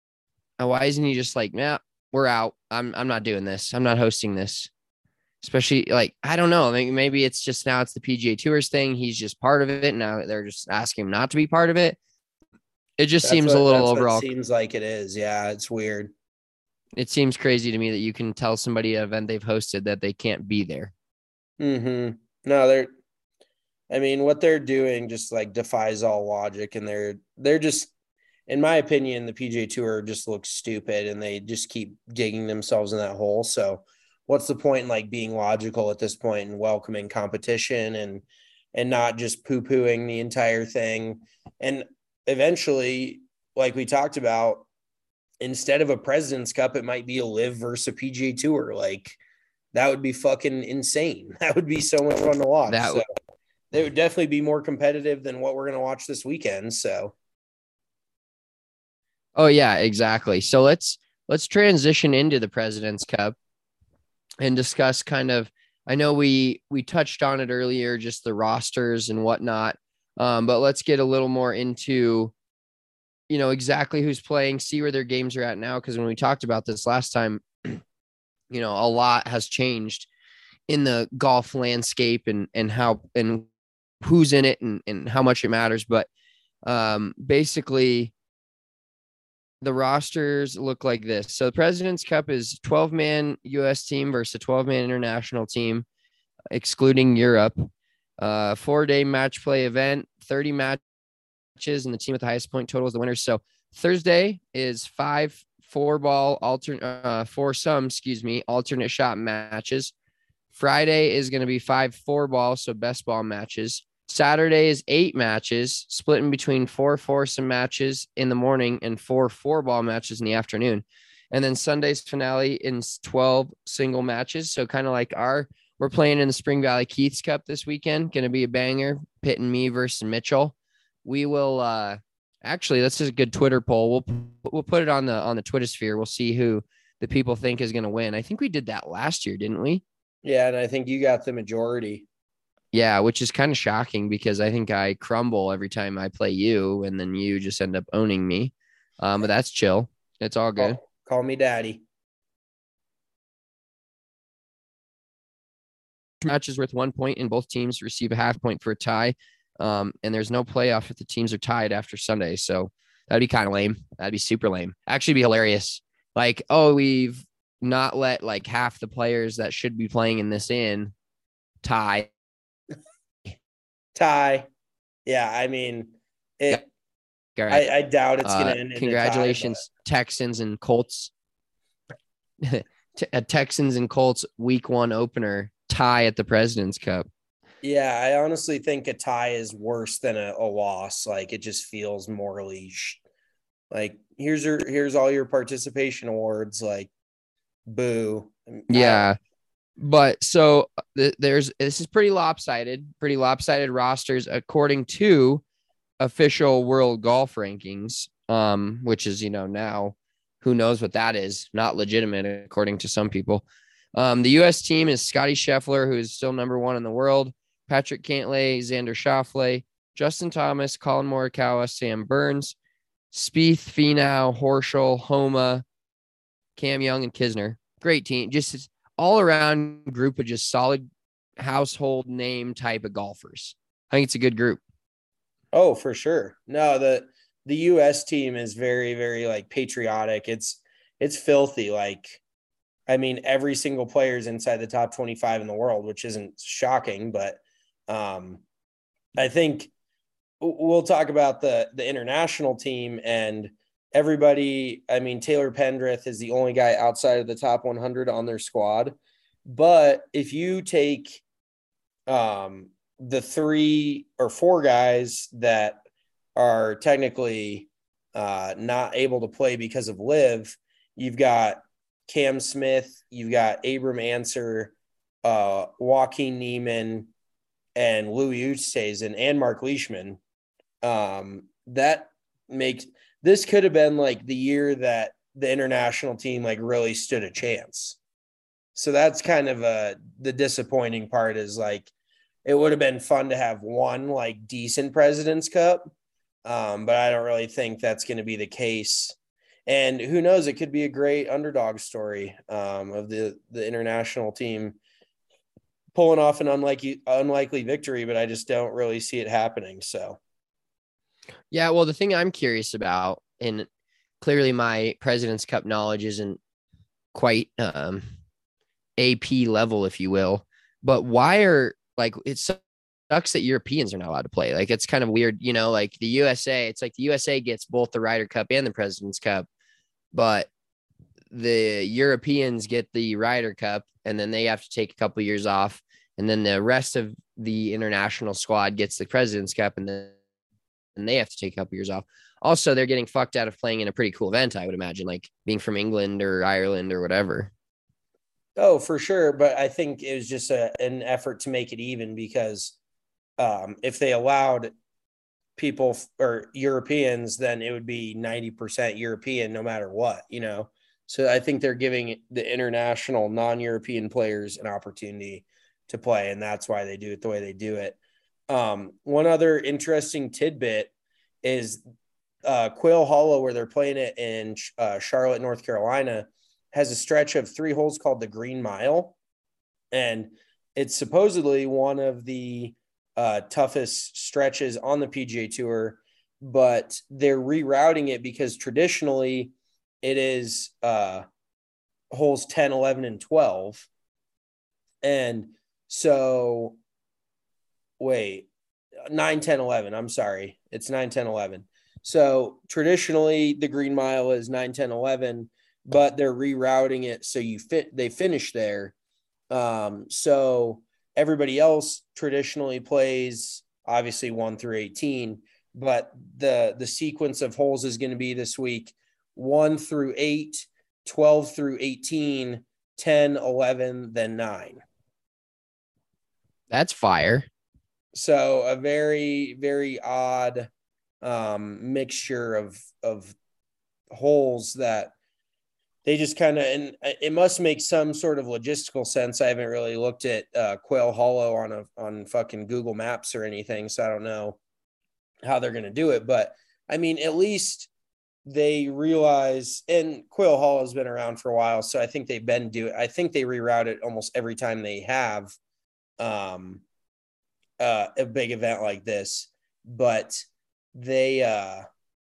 why isn't he just like, yeah, we're out. I'm, I'm not doing this. I'm not hosting this. Especially like, I don't know. Maybe, maybe it's just now it's the P G A Tours thing. He's just part of it. Now they're just asking him not to be part of it. It just That's seems what, a little overall. It seems like it is. Yeah. It's weird. It seems crazy to me that you can tell somebody an event they've hosted that they can't be there. Mm-hmm. No, they're, I mean, what they're doing just like defies all logic, and they're they're just, in my opinion, the P G A Tour just looks stupid, and they just keep digging themselves in that hole. So, what's the point in like being logical at this point and welcoming competition and and not just poo pooing the entire thing? And eventually, like we talked about, instead of a President's Cup, it might be a Live versus a P G A Tour. Like, that would be fucking insane. That would be so much fun to watch. That so. would- They would definitely be more competitive than what we're going to watch this weekend. So, oh yeah, exactly. So let's let's transition into the President's Cup and discuss kind of. I know we we touched on it earlier, just the rosters and whatnot, um, but let's get a little more into, you know, exactly who's playing, see where their games are at now. Because when we talked about this last time, you know, a lot has changed in the golf landscape and and how and who's in it and, and how much it matters. But um, basically the rosters look like this. So the President's Cup is twelve-man U S team versus a twelve-man international team, excluding Europe. Uh, four-day match play event, thirty matches, and the team with the highest point total is the winner. So Thursday is five four-ball alternate, uh, four-some, excuse me, alternate shot matches. Friday is going to be five four-ball, so best ball matches. Saturday is eight matches, split in between four foursome matches in the morning and four four-ball matches in the afternoon. And then Sunday's finale in twelve single matches. So kind of like our, we're playing in the Spring Valley Keith's Cup this weekend. Going to be a banger, Pitt and me versus Mitchell. We will uh, actually, that's just a good Twitter poll. We'll we'll put it on the on the Twitter sphere. We'll see who the people think is going to win. I think we did that last year, didn't we? Yeah, and I think you got the majority. Yeah, which is kind of shocking because I think I crumble every time I play you, and then you just end up owning me. Um, but that's chill. It's all good. Call, call me daddy. Matches worth one point, and both teams receive a half point for a tie. Um, and there's no playoff if the teams are tied after Sunday. So that'd be kind of lame. That'd be super lame. Actually be hilarious. Like, oh, we've not let like half the players that should be playing in this in tie. Tie. Yeah, I mean, it. Yeah. Right. I, I doubt it's going to uh, end in congratulations, a tie, Texans and Colts. T- Texans and Colts week one opener tie at the President's Cup. Yeah, I honestly think a tie is worse than a, a loss. Like, it just feels morally sh- like here's your here's all your participation awards. Like, boo. Yeah. But so th- there's this is pretty lopsided, pretty lopsided rosters according to official world golf rankings, um, which is, you know, now who knows what that is, not legitimate according to some people. Um, the U S team is Scotty Scheffler, who is still number one in the world, Patrick Cantlay, Xander Schauffele, Justin Thomas, Colin Morikawa, Sam Burns, Spieth, Finau, Horschel, Homa, Cam Young, and Kisner. Great team. Just all around group of just solid household name type of golfers. I think it's a good group. Oh, for sure. No, the the U S team is very, very like patriotic. It's it's filthy. Like, I mean, every single player is inside the top twenty-five in the world, which isn't shocking, but um, I think we'll talk about the the international team and everybody. I mean, Taylor Pendrith is the only guy outside of the top one hundred on their squad. But if you take um, the three or four guys that are technically uh, not able to play because of live, you've got Cam Smith, you've got Abram Answer, uh, Joaquin Niemann, and Louis Oosthuizen, and Mark Leishman. Um, that makes this could have been like the year that the international team like really stood a chance. So that's kind of a the disappointing part is like it would have been fun to have one like decent President's Cup, um, but I don't really think that's going to be the case. And who knows, it could be a great underdog story um, of the, the international team pulling off an unlikely, unlikely victory, but I just don't really see it happening. So, yeah, well, the thing I'm curious about, and clearly my President's Cup knowledge isn't quite um, A P level, if you will, but why are like it sucks that Europeans are not allowed to play. Like, it's kind of weird, you know, like the U S A, it's like the U S A gets both the Ryder Cup and the President's Cup, but the Europeans get the Ryder Cup and then they have to take a couple of years off. And then the rest of the international squad gets the President's Cup and then and they have to take a couple years off. Also, they're getting fucked out of playing in a pretty cool event, I would imagine, like being from England or Ireland or whatever. Oh, for sure. But I think it was just a, an effort to make it even because um, if they allowed people or Europeans, then it would be ninety percent European no matter what, you know? So I think they're giving the international non-European players an opportunity to play, and that's why they do it the way they do it. Um, one other interesting tidbit is uh, Quail Hollow, where they're playing it in uh, Charlotte, North Carolina, has a stretch of three holes called the Green Mile. And it's supposedly one of the uh, toughest stretches on the P G A Tour. but they're rerouting it because traditionally it is uh, holes ten, eleven, and twelve. And so, wait, nine, ten, eleven. I'm sorry. It's nine, ten, eleven. So traditionally the Green Mile is nine, ten, eleven, but they're rerouting it so you fit they finish there. Um, so everybody else traditionally plays obviously one through eighteen, but the the sequence of holes is going to be this week one through eight, twelve through eighteen, ten, eleven, then nine. That's fire. So a very, very odd um, mixture of of holes that they just kind of, and it must make some sort of logistical sense. I haven't really looked at uh, Quail Hollow on a on fucking Google Maps or anything, so I don't know how they're going to do it. But I mean, at least they realize, and Quail Hollow has been around for a while, so I think they've been doing. I think they reroute it almost every time they have um, uh, a big event like this, but they uh,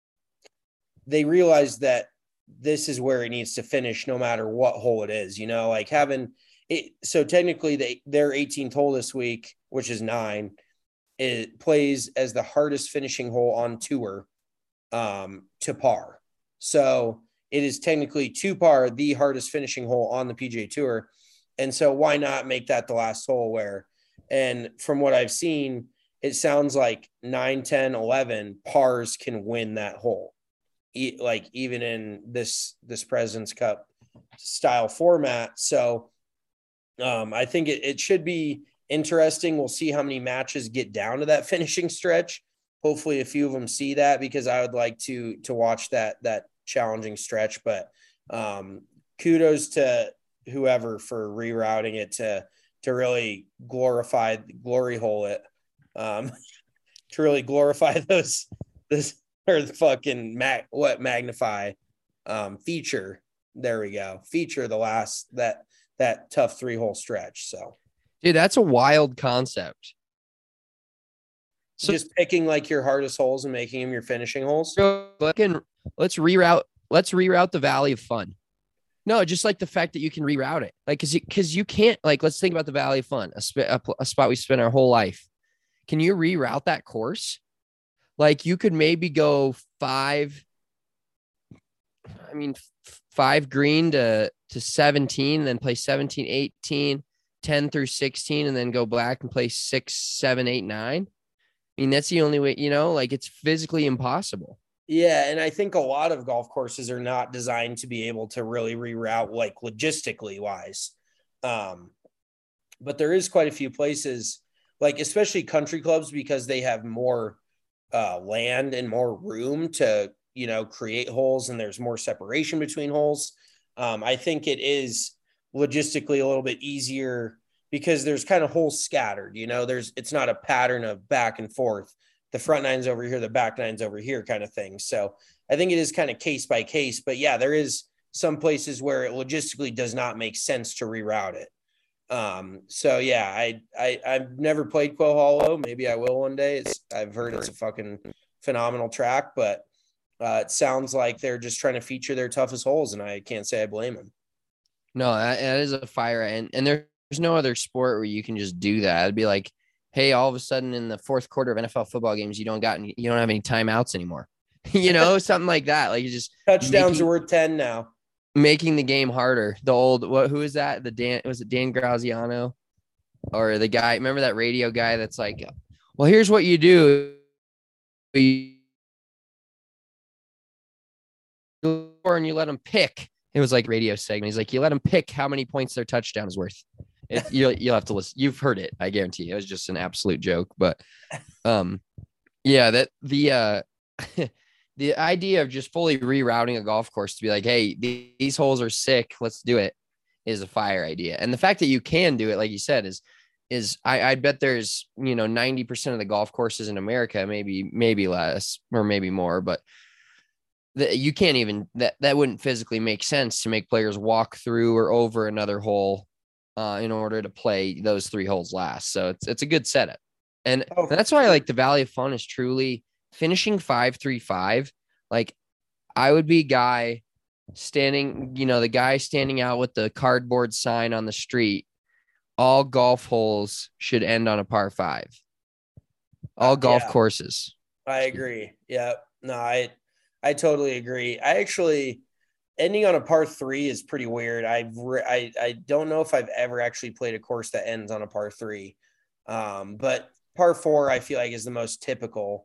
they realize that this is where it needs to finish no matter what hole it is, you know, like having it. So technically they, their eighteenth hole this week, which is nine, it plays as the hardest finishing hole on tour um, to par. So it is technically to par, the hardest finishing hole on the P G A Tour. And so why not make that the last hole where, and from what I've seen, it sounds like nine, ten, eleven pars can win that hole. E- like even in this, this President's Cup style format. So um, I think it, it should be interesting. We'll see how many matches get down to that finishing stretch. Hopefully a few of them see that, because I would like to, to watch that, that challenging stretch, but um, kudos to whoever for rerouting it to, to really glorify, glory hole it, um, to really glorify those, this, or the fucking mag, what magnify um, feature. There we go. Feature the last, that, that tough three hole stretch. So, dude, that's a wild concept. So just picking like your hardest holes and making them your finishing holes. Fucking, let's reroute. Let's reroute the Valley of Fun. No, just like the fact that you can reroute it, like because because you, you can't, like, let's think about the Valley of Fun, a, sp- a, a spot we spent our whole life. Can you reroute that course? Like you could maybe go five. I mean, f- five green to to seventeen, then play seventeen, eighteen, ten through sixteen, and then go black and play six, seven, eight, nine. I mean, that's the only way, you know, like it's physically impossible. Yeah. And I think a lot of golf courses are not designed to be able to really reroute, like logistically wise. Um, but there is quite a few places, like especially country clubs, because they have more uh, land and more room to, you know, create holes, and there's more separation between holes. Um, I think it is logistically a little bit easier because there's kind of holes scattered, you know, there's, it's not a pattern of back and forth. The front nine's over here, the back nine's over here kind of thing. So I think it is kind of case by case, but yeah, there is some places where it logistically does not make sense to reroute it. Um, so yeah, I, I, I've never played Quail Hollow. Maybe I will one day. It's, I've heard it's a fucking phenomenal track, but uh, it sounds like they're just trying to feature their toughest holes, and I can't say I blame them. No, that, that is a fire. And, and there's no other sport where you can just do that. It'd be like, hey, all of a sudden in the fourth quarter of N F L football games, you don't got any, you don't have any timeouts anymore. You know, something like that. Like you just touchdowns making, are worth ten now. Making the game harder. The old, what, who is that? The Dan, was it Dan Graziano or the guy? Remember that radio guy that's like, well, here's what you do. You, and you let them pick. It was like radio segment. He's like, you let them pick how many points their touchdown is worth. It, you'll, you'll have to listen. You've heard it. I guarantee you. It was just an absolute joke, but um, yeah, that the, uh, the idea of just fully rerouting a golf course to be like, hey, these holes are sick, let's do it, is a fire idea. And the fact that you can do it, like you said, is, is I, I bet there's, you know, ninety percent of the golf courses in America, maybe, maybe less or maybe more, but the, you can't even, that, that wouldn't physically make sense to make players walk through or over another hole uh, in order to play those three holes last. So it's, it's a good setup. And oh, that's why I like the Valley of Fun is truly finishing five three five, like I would be a guy standing, you know, the guy standing out with the cardboard sign on the street. All golf holes should end on a par five. All Uh, golf yeah. courses. I agree. Yeah. No, I I totally agree. I actually ending on a par three is pretty weird. I've re- I I don't know if I've ever actually played a course that ends on a par three. Um, but par four I feel like is the most typical.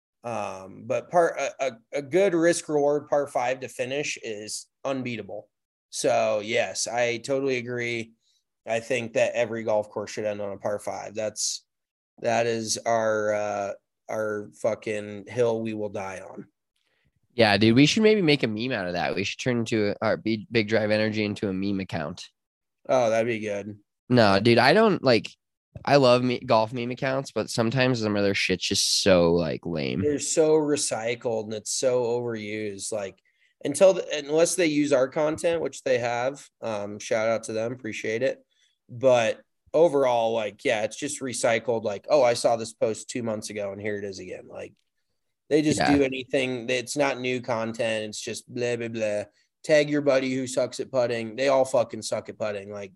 Um, but par a, a, a good risk reward par five to finish is unbeatable. So yes, I totally agree. I think that every golf course should end on a par five. That's that is our uh our fucking hill we will die on. Yeah, dude, we should maybe make a meme out of that. We should turn into our big, big drive energy into a meme account. Oh, that'd be good. No, dude, I don't like. I love me golf meme accounts, but sometimes some of their shit's just so like lame. They're so recycled and it's so overused. Like until the, unless they use our content, which they have. Um, shout out to them, appreciate it. But overall, like, yeah, it's just recycled. Like, oh, I saw this post two months ago and here it is again. Like, they just Yeah. do anything. It's not new content. It's just blah, blah, blah. Tag your buddy who sucks at putting. They all fucking suck at putting. Like,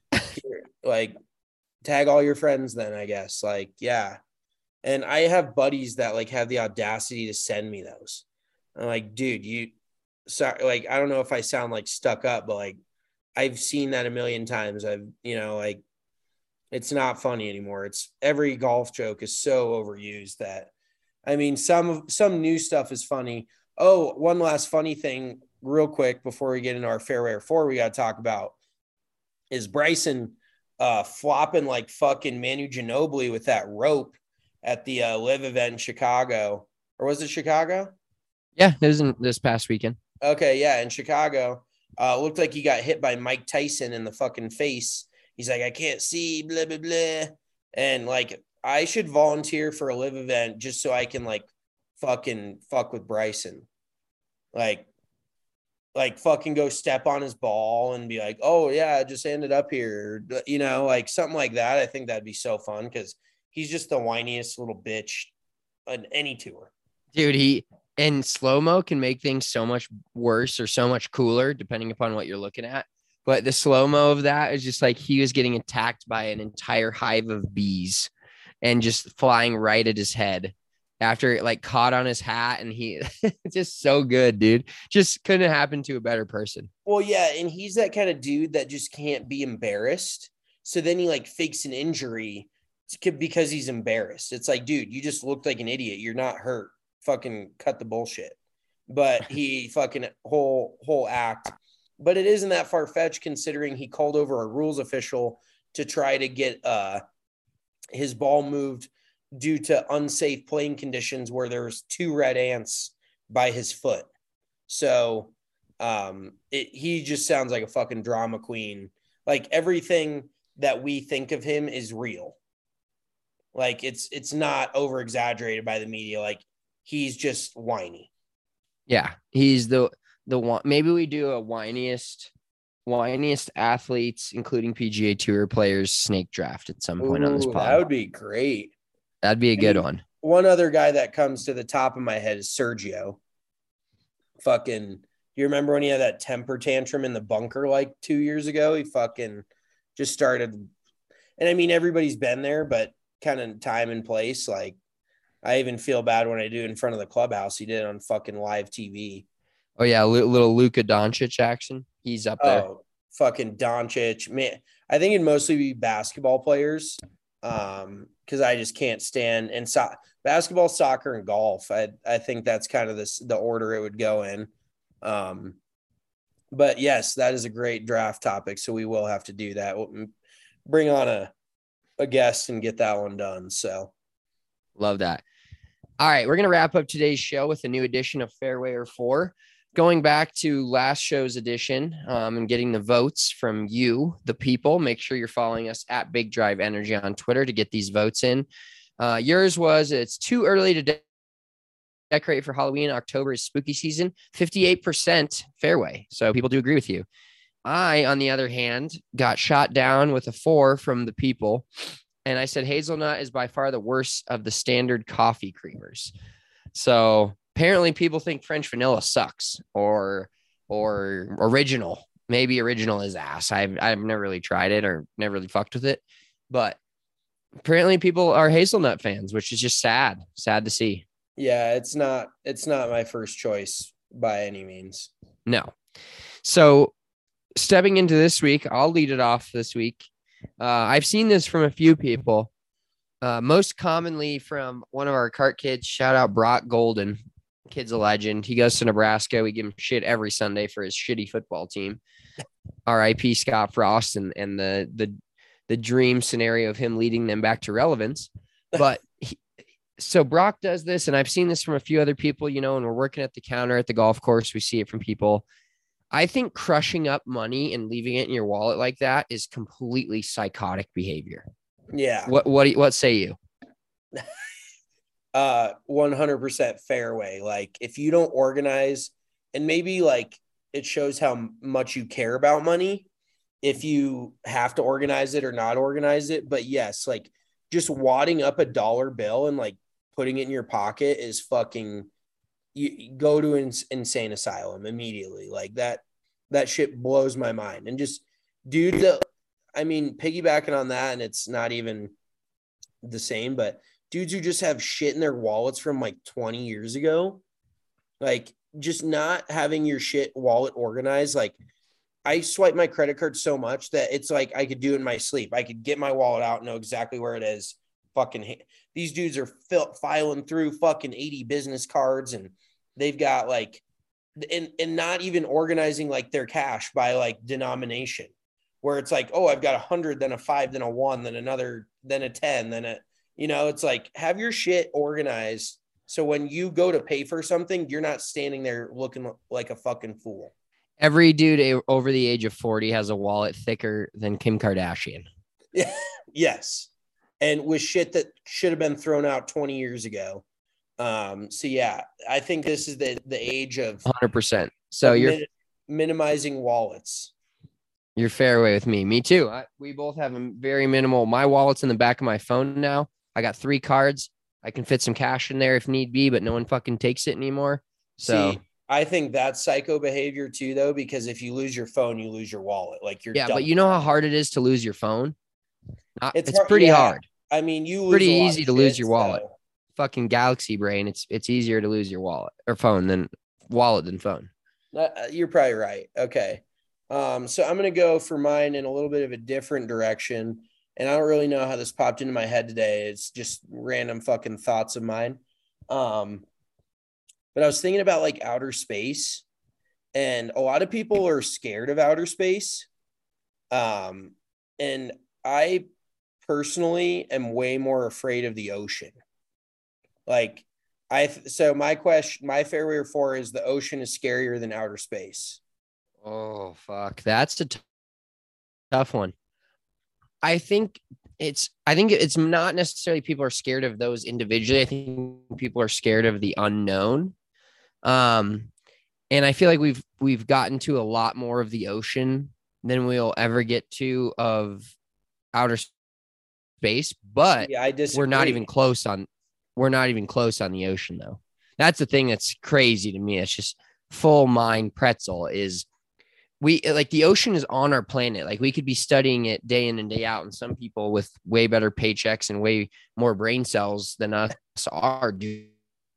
like tag all your friends then, I guess. Like, yeah. And I have buddies that like have the audacity to send me those. I'm like, dude, you sorry, like, I don't know if I sound like stuck up, but like I've seen that a million times. I've, you know, like it's not funny anymore. It's every golf joke is so overused that I mean, some some new stuff is funny. Oh, one last funny thing, real quick, before we get into our fairway four, we got to talk about is Bryson uh, flopping like fucking Manu Ginobili with that rope at the uh, live event in Chicago, or was it Chicago? Yeah, it was in this past weekend. Okay, yeah, in Chicago, uh, looked like he got hit by Mike Tyson in the fucking face. He's like, I can't see, blah blah blah, and like. I should volunteer for a live event just so I can like fucking fuck with Bryson. Like, like fucking go step on his ball and be like, oh yeah, I just ended up here. You know, like something like that. I think that'd be so fun because he's just the whiniest little bitch on any tour. Dude, he and slow-mo can make things so much worse or so much cooler depending upon what you're looking at. But the slow-mo of that is just like he was getting attacked by an entire hive of bees. And just flying right at his head after it like caught on his hat. And he just so good, dude. Just couldn't happen to a better person. Well, yeah. And he's that kind of dude that just can't be embarrassed. So then he like fakes an injury because he's embarrassed. It's like, dude, you just looked like an idiot. You're not hurt. Fucking cut the bullshit. But he fucking whole, whole act. But it isn't that far fetched considering he called over a rules official to try to get, uh, his ball moved due to unsafe playing conditions where there's two red ants by his foot. So um, it, he just sounds like a fucking drama queen. Like everything that we think of him is real. Like it's, it's not over exaggerated by the media. Like he's just whiny. Yeah. He's the, the one, maybe we do a whiniest, whiniest athletes, including P G A Tour players, snake draft at some point Ooh, on this pod. That would be great. That'd be a good I mean, one. One other guy that comes to the top of my head is Sergio. Fucking, you remember when he had that temper tantrum in the bunker like two years ago? He fucking just started. And I mean, everybody's been there, but kind of time and place. Like, I even feel bad when I do it in front of the clubhouse. He did it on fucking live T V. Oh, yeah. Li- little Luka Doncic action. He's up there. Oh, fucking Doncic. Man, I think it'd mostly be basketball players um, because I just can't stand and so- basketball, soccer, and golf. I I think that's kind of this the order it would go in. Um, but yes, that is a great draft topic. So we will have to do that. We'll bring on a a guest and get that one done. So love that. All right, we're gonna wrap up today's show with a new edition of Fairway or Four. Going back to last show's edition um, and getting the votes from you, the people, make sure you're following us at Big Drive Energy on Twitter to get these votes in. Uh, yours was, it's too early to de- decorate for Halloween. October is spooky season, fifty-eight percent fairway. So people do agree with you. I, on the other hand, got shot down with a four from the people. And I said hazelnut is by far the worst of the standard coffee creamers. So apparently people think French vanilla sucks or or original. Maybe original is ass. I've I've never really tried it or never really fucked with it. But apparently people are hazelnut fans, which is just sad. Sad to see. Yeah, it's not it's not my first choice by any means. No. So stepping into this week, I'll lead it off this week. Uh, I've seen this from a few people. Uh, most commonly from one of our cart kids. Shout out Brock Golden. Kid's a legend. He goes to Nebraska. We give him shit every Sunday for his shitty football team. R I P Scott Frost and, and the, the, the dream scenario of him leading them back to relevance. But he, so Brock does this, and I've seen this from a few other people, you know, and we're working at the counter at the golf course. We see it from people. I think crushing up money and leaving it in your wallet like that is completely psychotic behavior. Yeah. What, what, what say you? uh, one hundred percent fairway. Like if you don't organize, and maybe like it shows how much you care about money, if you have to organize it or not organize it. But yes, like just wadding up a dollar bill and like putting it in your pocket is fucking, you, you go to an insane asylum immediately. Like that, that shit blows my mind. And just dude, the, I mean, piggybacking on that, and it's not even the same, but dudes who just have shit in their wallets from like twenty years ago, like just not having your shit wallet organized. Like I swipe my credit card so much that it's like I could do it in my sleep. I could get my wallet out and know exactly where it is. Fucking these dudes are fil- filing through fucking eighty business cards, and they've got like, and, and not even organizing like their cash by like denomination, where it's like, oh, I've got a hundred, then a five, then a one, then another, then a ten, then a, you know, it's like have your shit organized. So when you go to pay for something, you're not standing there looking like a fucking fool. Every dude over the age of forty has a wallet thicker than Kim Kardashian. Yeah. Yes. And with shit that should have been thrown out twenty years ago. Um, so yeah, I think this is the, the age of one hundred percent. So of you're min- minimizing wallets. You're fairway with me. Me too. I, we both have a very minimal. My wallet's in the back of my phone now. I got three cards. I can fit some cash in there if need be, but no one fucking takes it anymore. So See, I think that's psycho behavior too, though, because if you lose your phone, you lose your wallet. Like you're yeah, dumb. but you know how hard it is to lose your phone? Not, It's it's hard- pretty yeah. hard. I mean, you lose Pretty a lot easy of to lose shit, your wallet. so- Fucking Galaxy brain. It's it's easier to lose your wallet or phone than wallet than phone. Uh, you're probably right. Okay. Um, so I'm going to go for mine in a little bit of a different direction. And I don't really know how this popped into my head today. It's just random fucking thoughts of mine. Um, but I was thinking about like outer space, and a lot of people are scared of outer space. Um, and I personally am way more afraid of the ocean. Like I, so my question, my fairway or four is the ocean is scarier than outer space. Oh, fuck. That's a t- tough one. I think it's, I think it's not necessarily people are scared of those individually. I think people are scared of the unknown. Um, and I feel like we've, we've gotten to a lot more of the ocean than we'll ever get to of outer space, but yeah, I disagree. we're not even close on, we're not even close on the ocean though. That's the thing that's crazy to me. It's just full mind pretzel is we like the ocean is on our planet. Like we could be studying it day in and day out. And some people with way better paychecks and way more brain cells than us are doing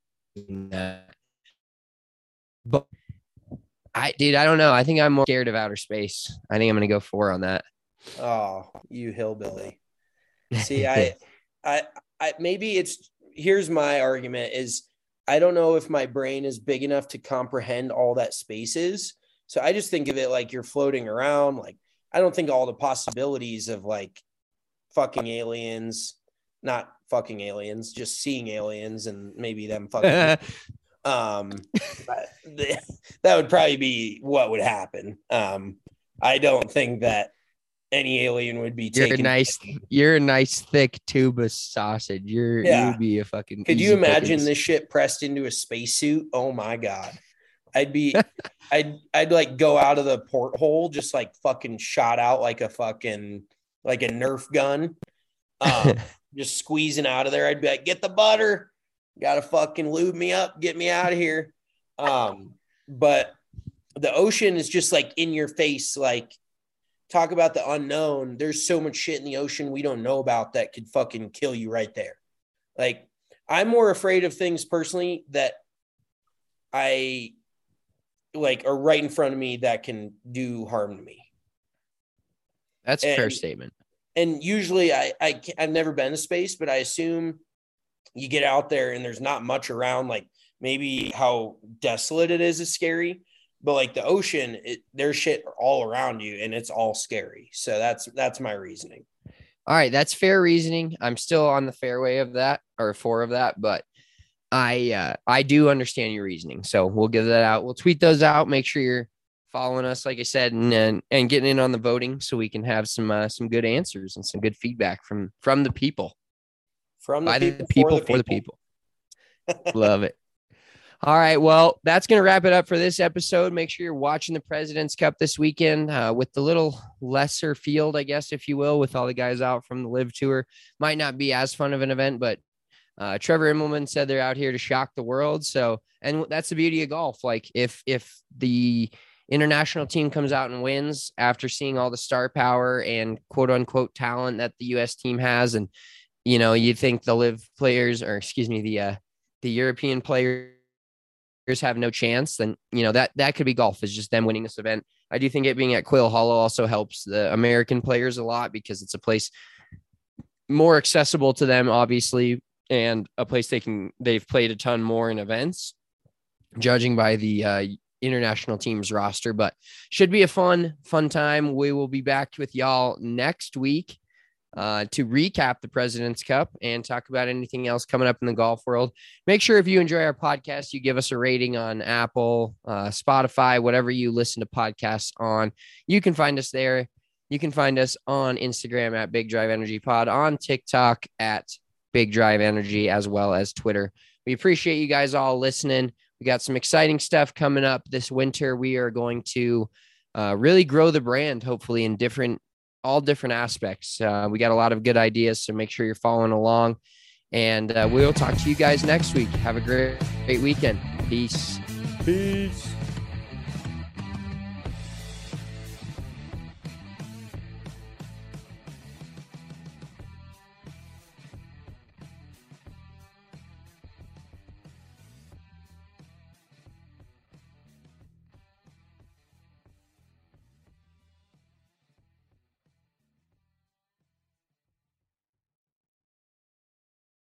that. But I, dude, I don't know. I think I'm more scared of outer space. I think I'm going to go four on that. Oh, you hillbilly. See, I, I, I, maybe it's, here's my argument is I don't know if my brain is big enough to comprehend all that space is. So I just think of it like you're floating around. Like, I don't think all the possibilities of like fucking aliens, not fucking aliens, just seeing aliens and maybe them fucking, um, that would probably be what would happen. Um, I don't think that any alien would be You're taken. a nice, you're a nice thick tube of sausage. You're, Yeah. you'd be a fucking. Could you easy imagine pickings. this shit pressed into a spacesuit? Oh my God. I'd be, I'd, I'd like go out of the porthole, just like fucking shot out like a fucking, like a Nerf gun, um, just squeezing out of there. I'd be like, get the butter, Gotta fucking lube me up, get me out of here. Um, but the ocean is just like in your face. Like, talk about the unknown. There's so much shit in the ocean we don't know about that could fucking kill you right there. Like, I'm more afraid of things personally that I like are right in front of me that can do harm to me. That's a and, fair statement. And usually I, I, I've never been to space, but I assume you get out there and there's not much around. Like, maybe how desolate it is is scary, but like the ocean, it, there's shit all around you and it's all scary. So that's, that's my reasoning. All right. That's fair reasoning. I'm still on the fairway of that or four of that, but I, uh, I do understand your reasoning. So we'll give that out. We'll tweet those out. Make sure you're following us, like I said, and, and, and getting in on the voting so we can have some, uh, some good answers and some good feedback from, from the people, from the by people, the people, for the for the people. Love it. All right. Well, that's going to wrap it up for this episode. Make sure you're watching the President's Cup this weekend uh, with the little lesser field, I guess, if you will, with all the guys out from the Live Tour. Might not be as fun of an event, but uh, Trevor Immelman said they're out here to shock the world. So, and that's the beauty of golf. Like, if, if the international team comes out and wins after seeing all the star power and quote unquote talent that the U S team has, and, you know, you think the Live players, or excuse me, the, uh, the European players have no chance, then, you know, that, that could be golf, is just them winning this event. I do think it being at Quail Hollow also helps the American players a lot because it's a place more accessible to them, obviously, and a place they can, they've played a ton more in events, judging by the uh, international team's roster, but should be a fun, fun time. We will be back with y'all next week uh, to recap the President's Cup and talk about anything else coming up in the golf world. Make sure if you enjoy our podcast, you give us a rating on Apple, uh, Spotify, whatever you listen to podcasts on. You can find us there. You can find us on Instagram at Big Drive Energy Pod, on TikTok at Big Drive Energy, as well as Twitter. We appreciate you guys all listening. We got some exciting stuff coming up this winter. We are going to uh, really grow the brand, hopefully in different all different aspects. Uh, we got a lot of good ideas, so make sure you're following along, and uh, we'll talk to you guys next week. Have a great, great weekend. Peace. Peace.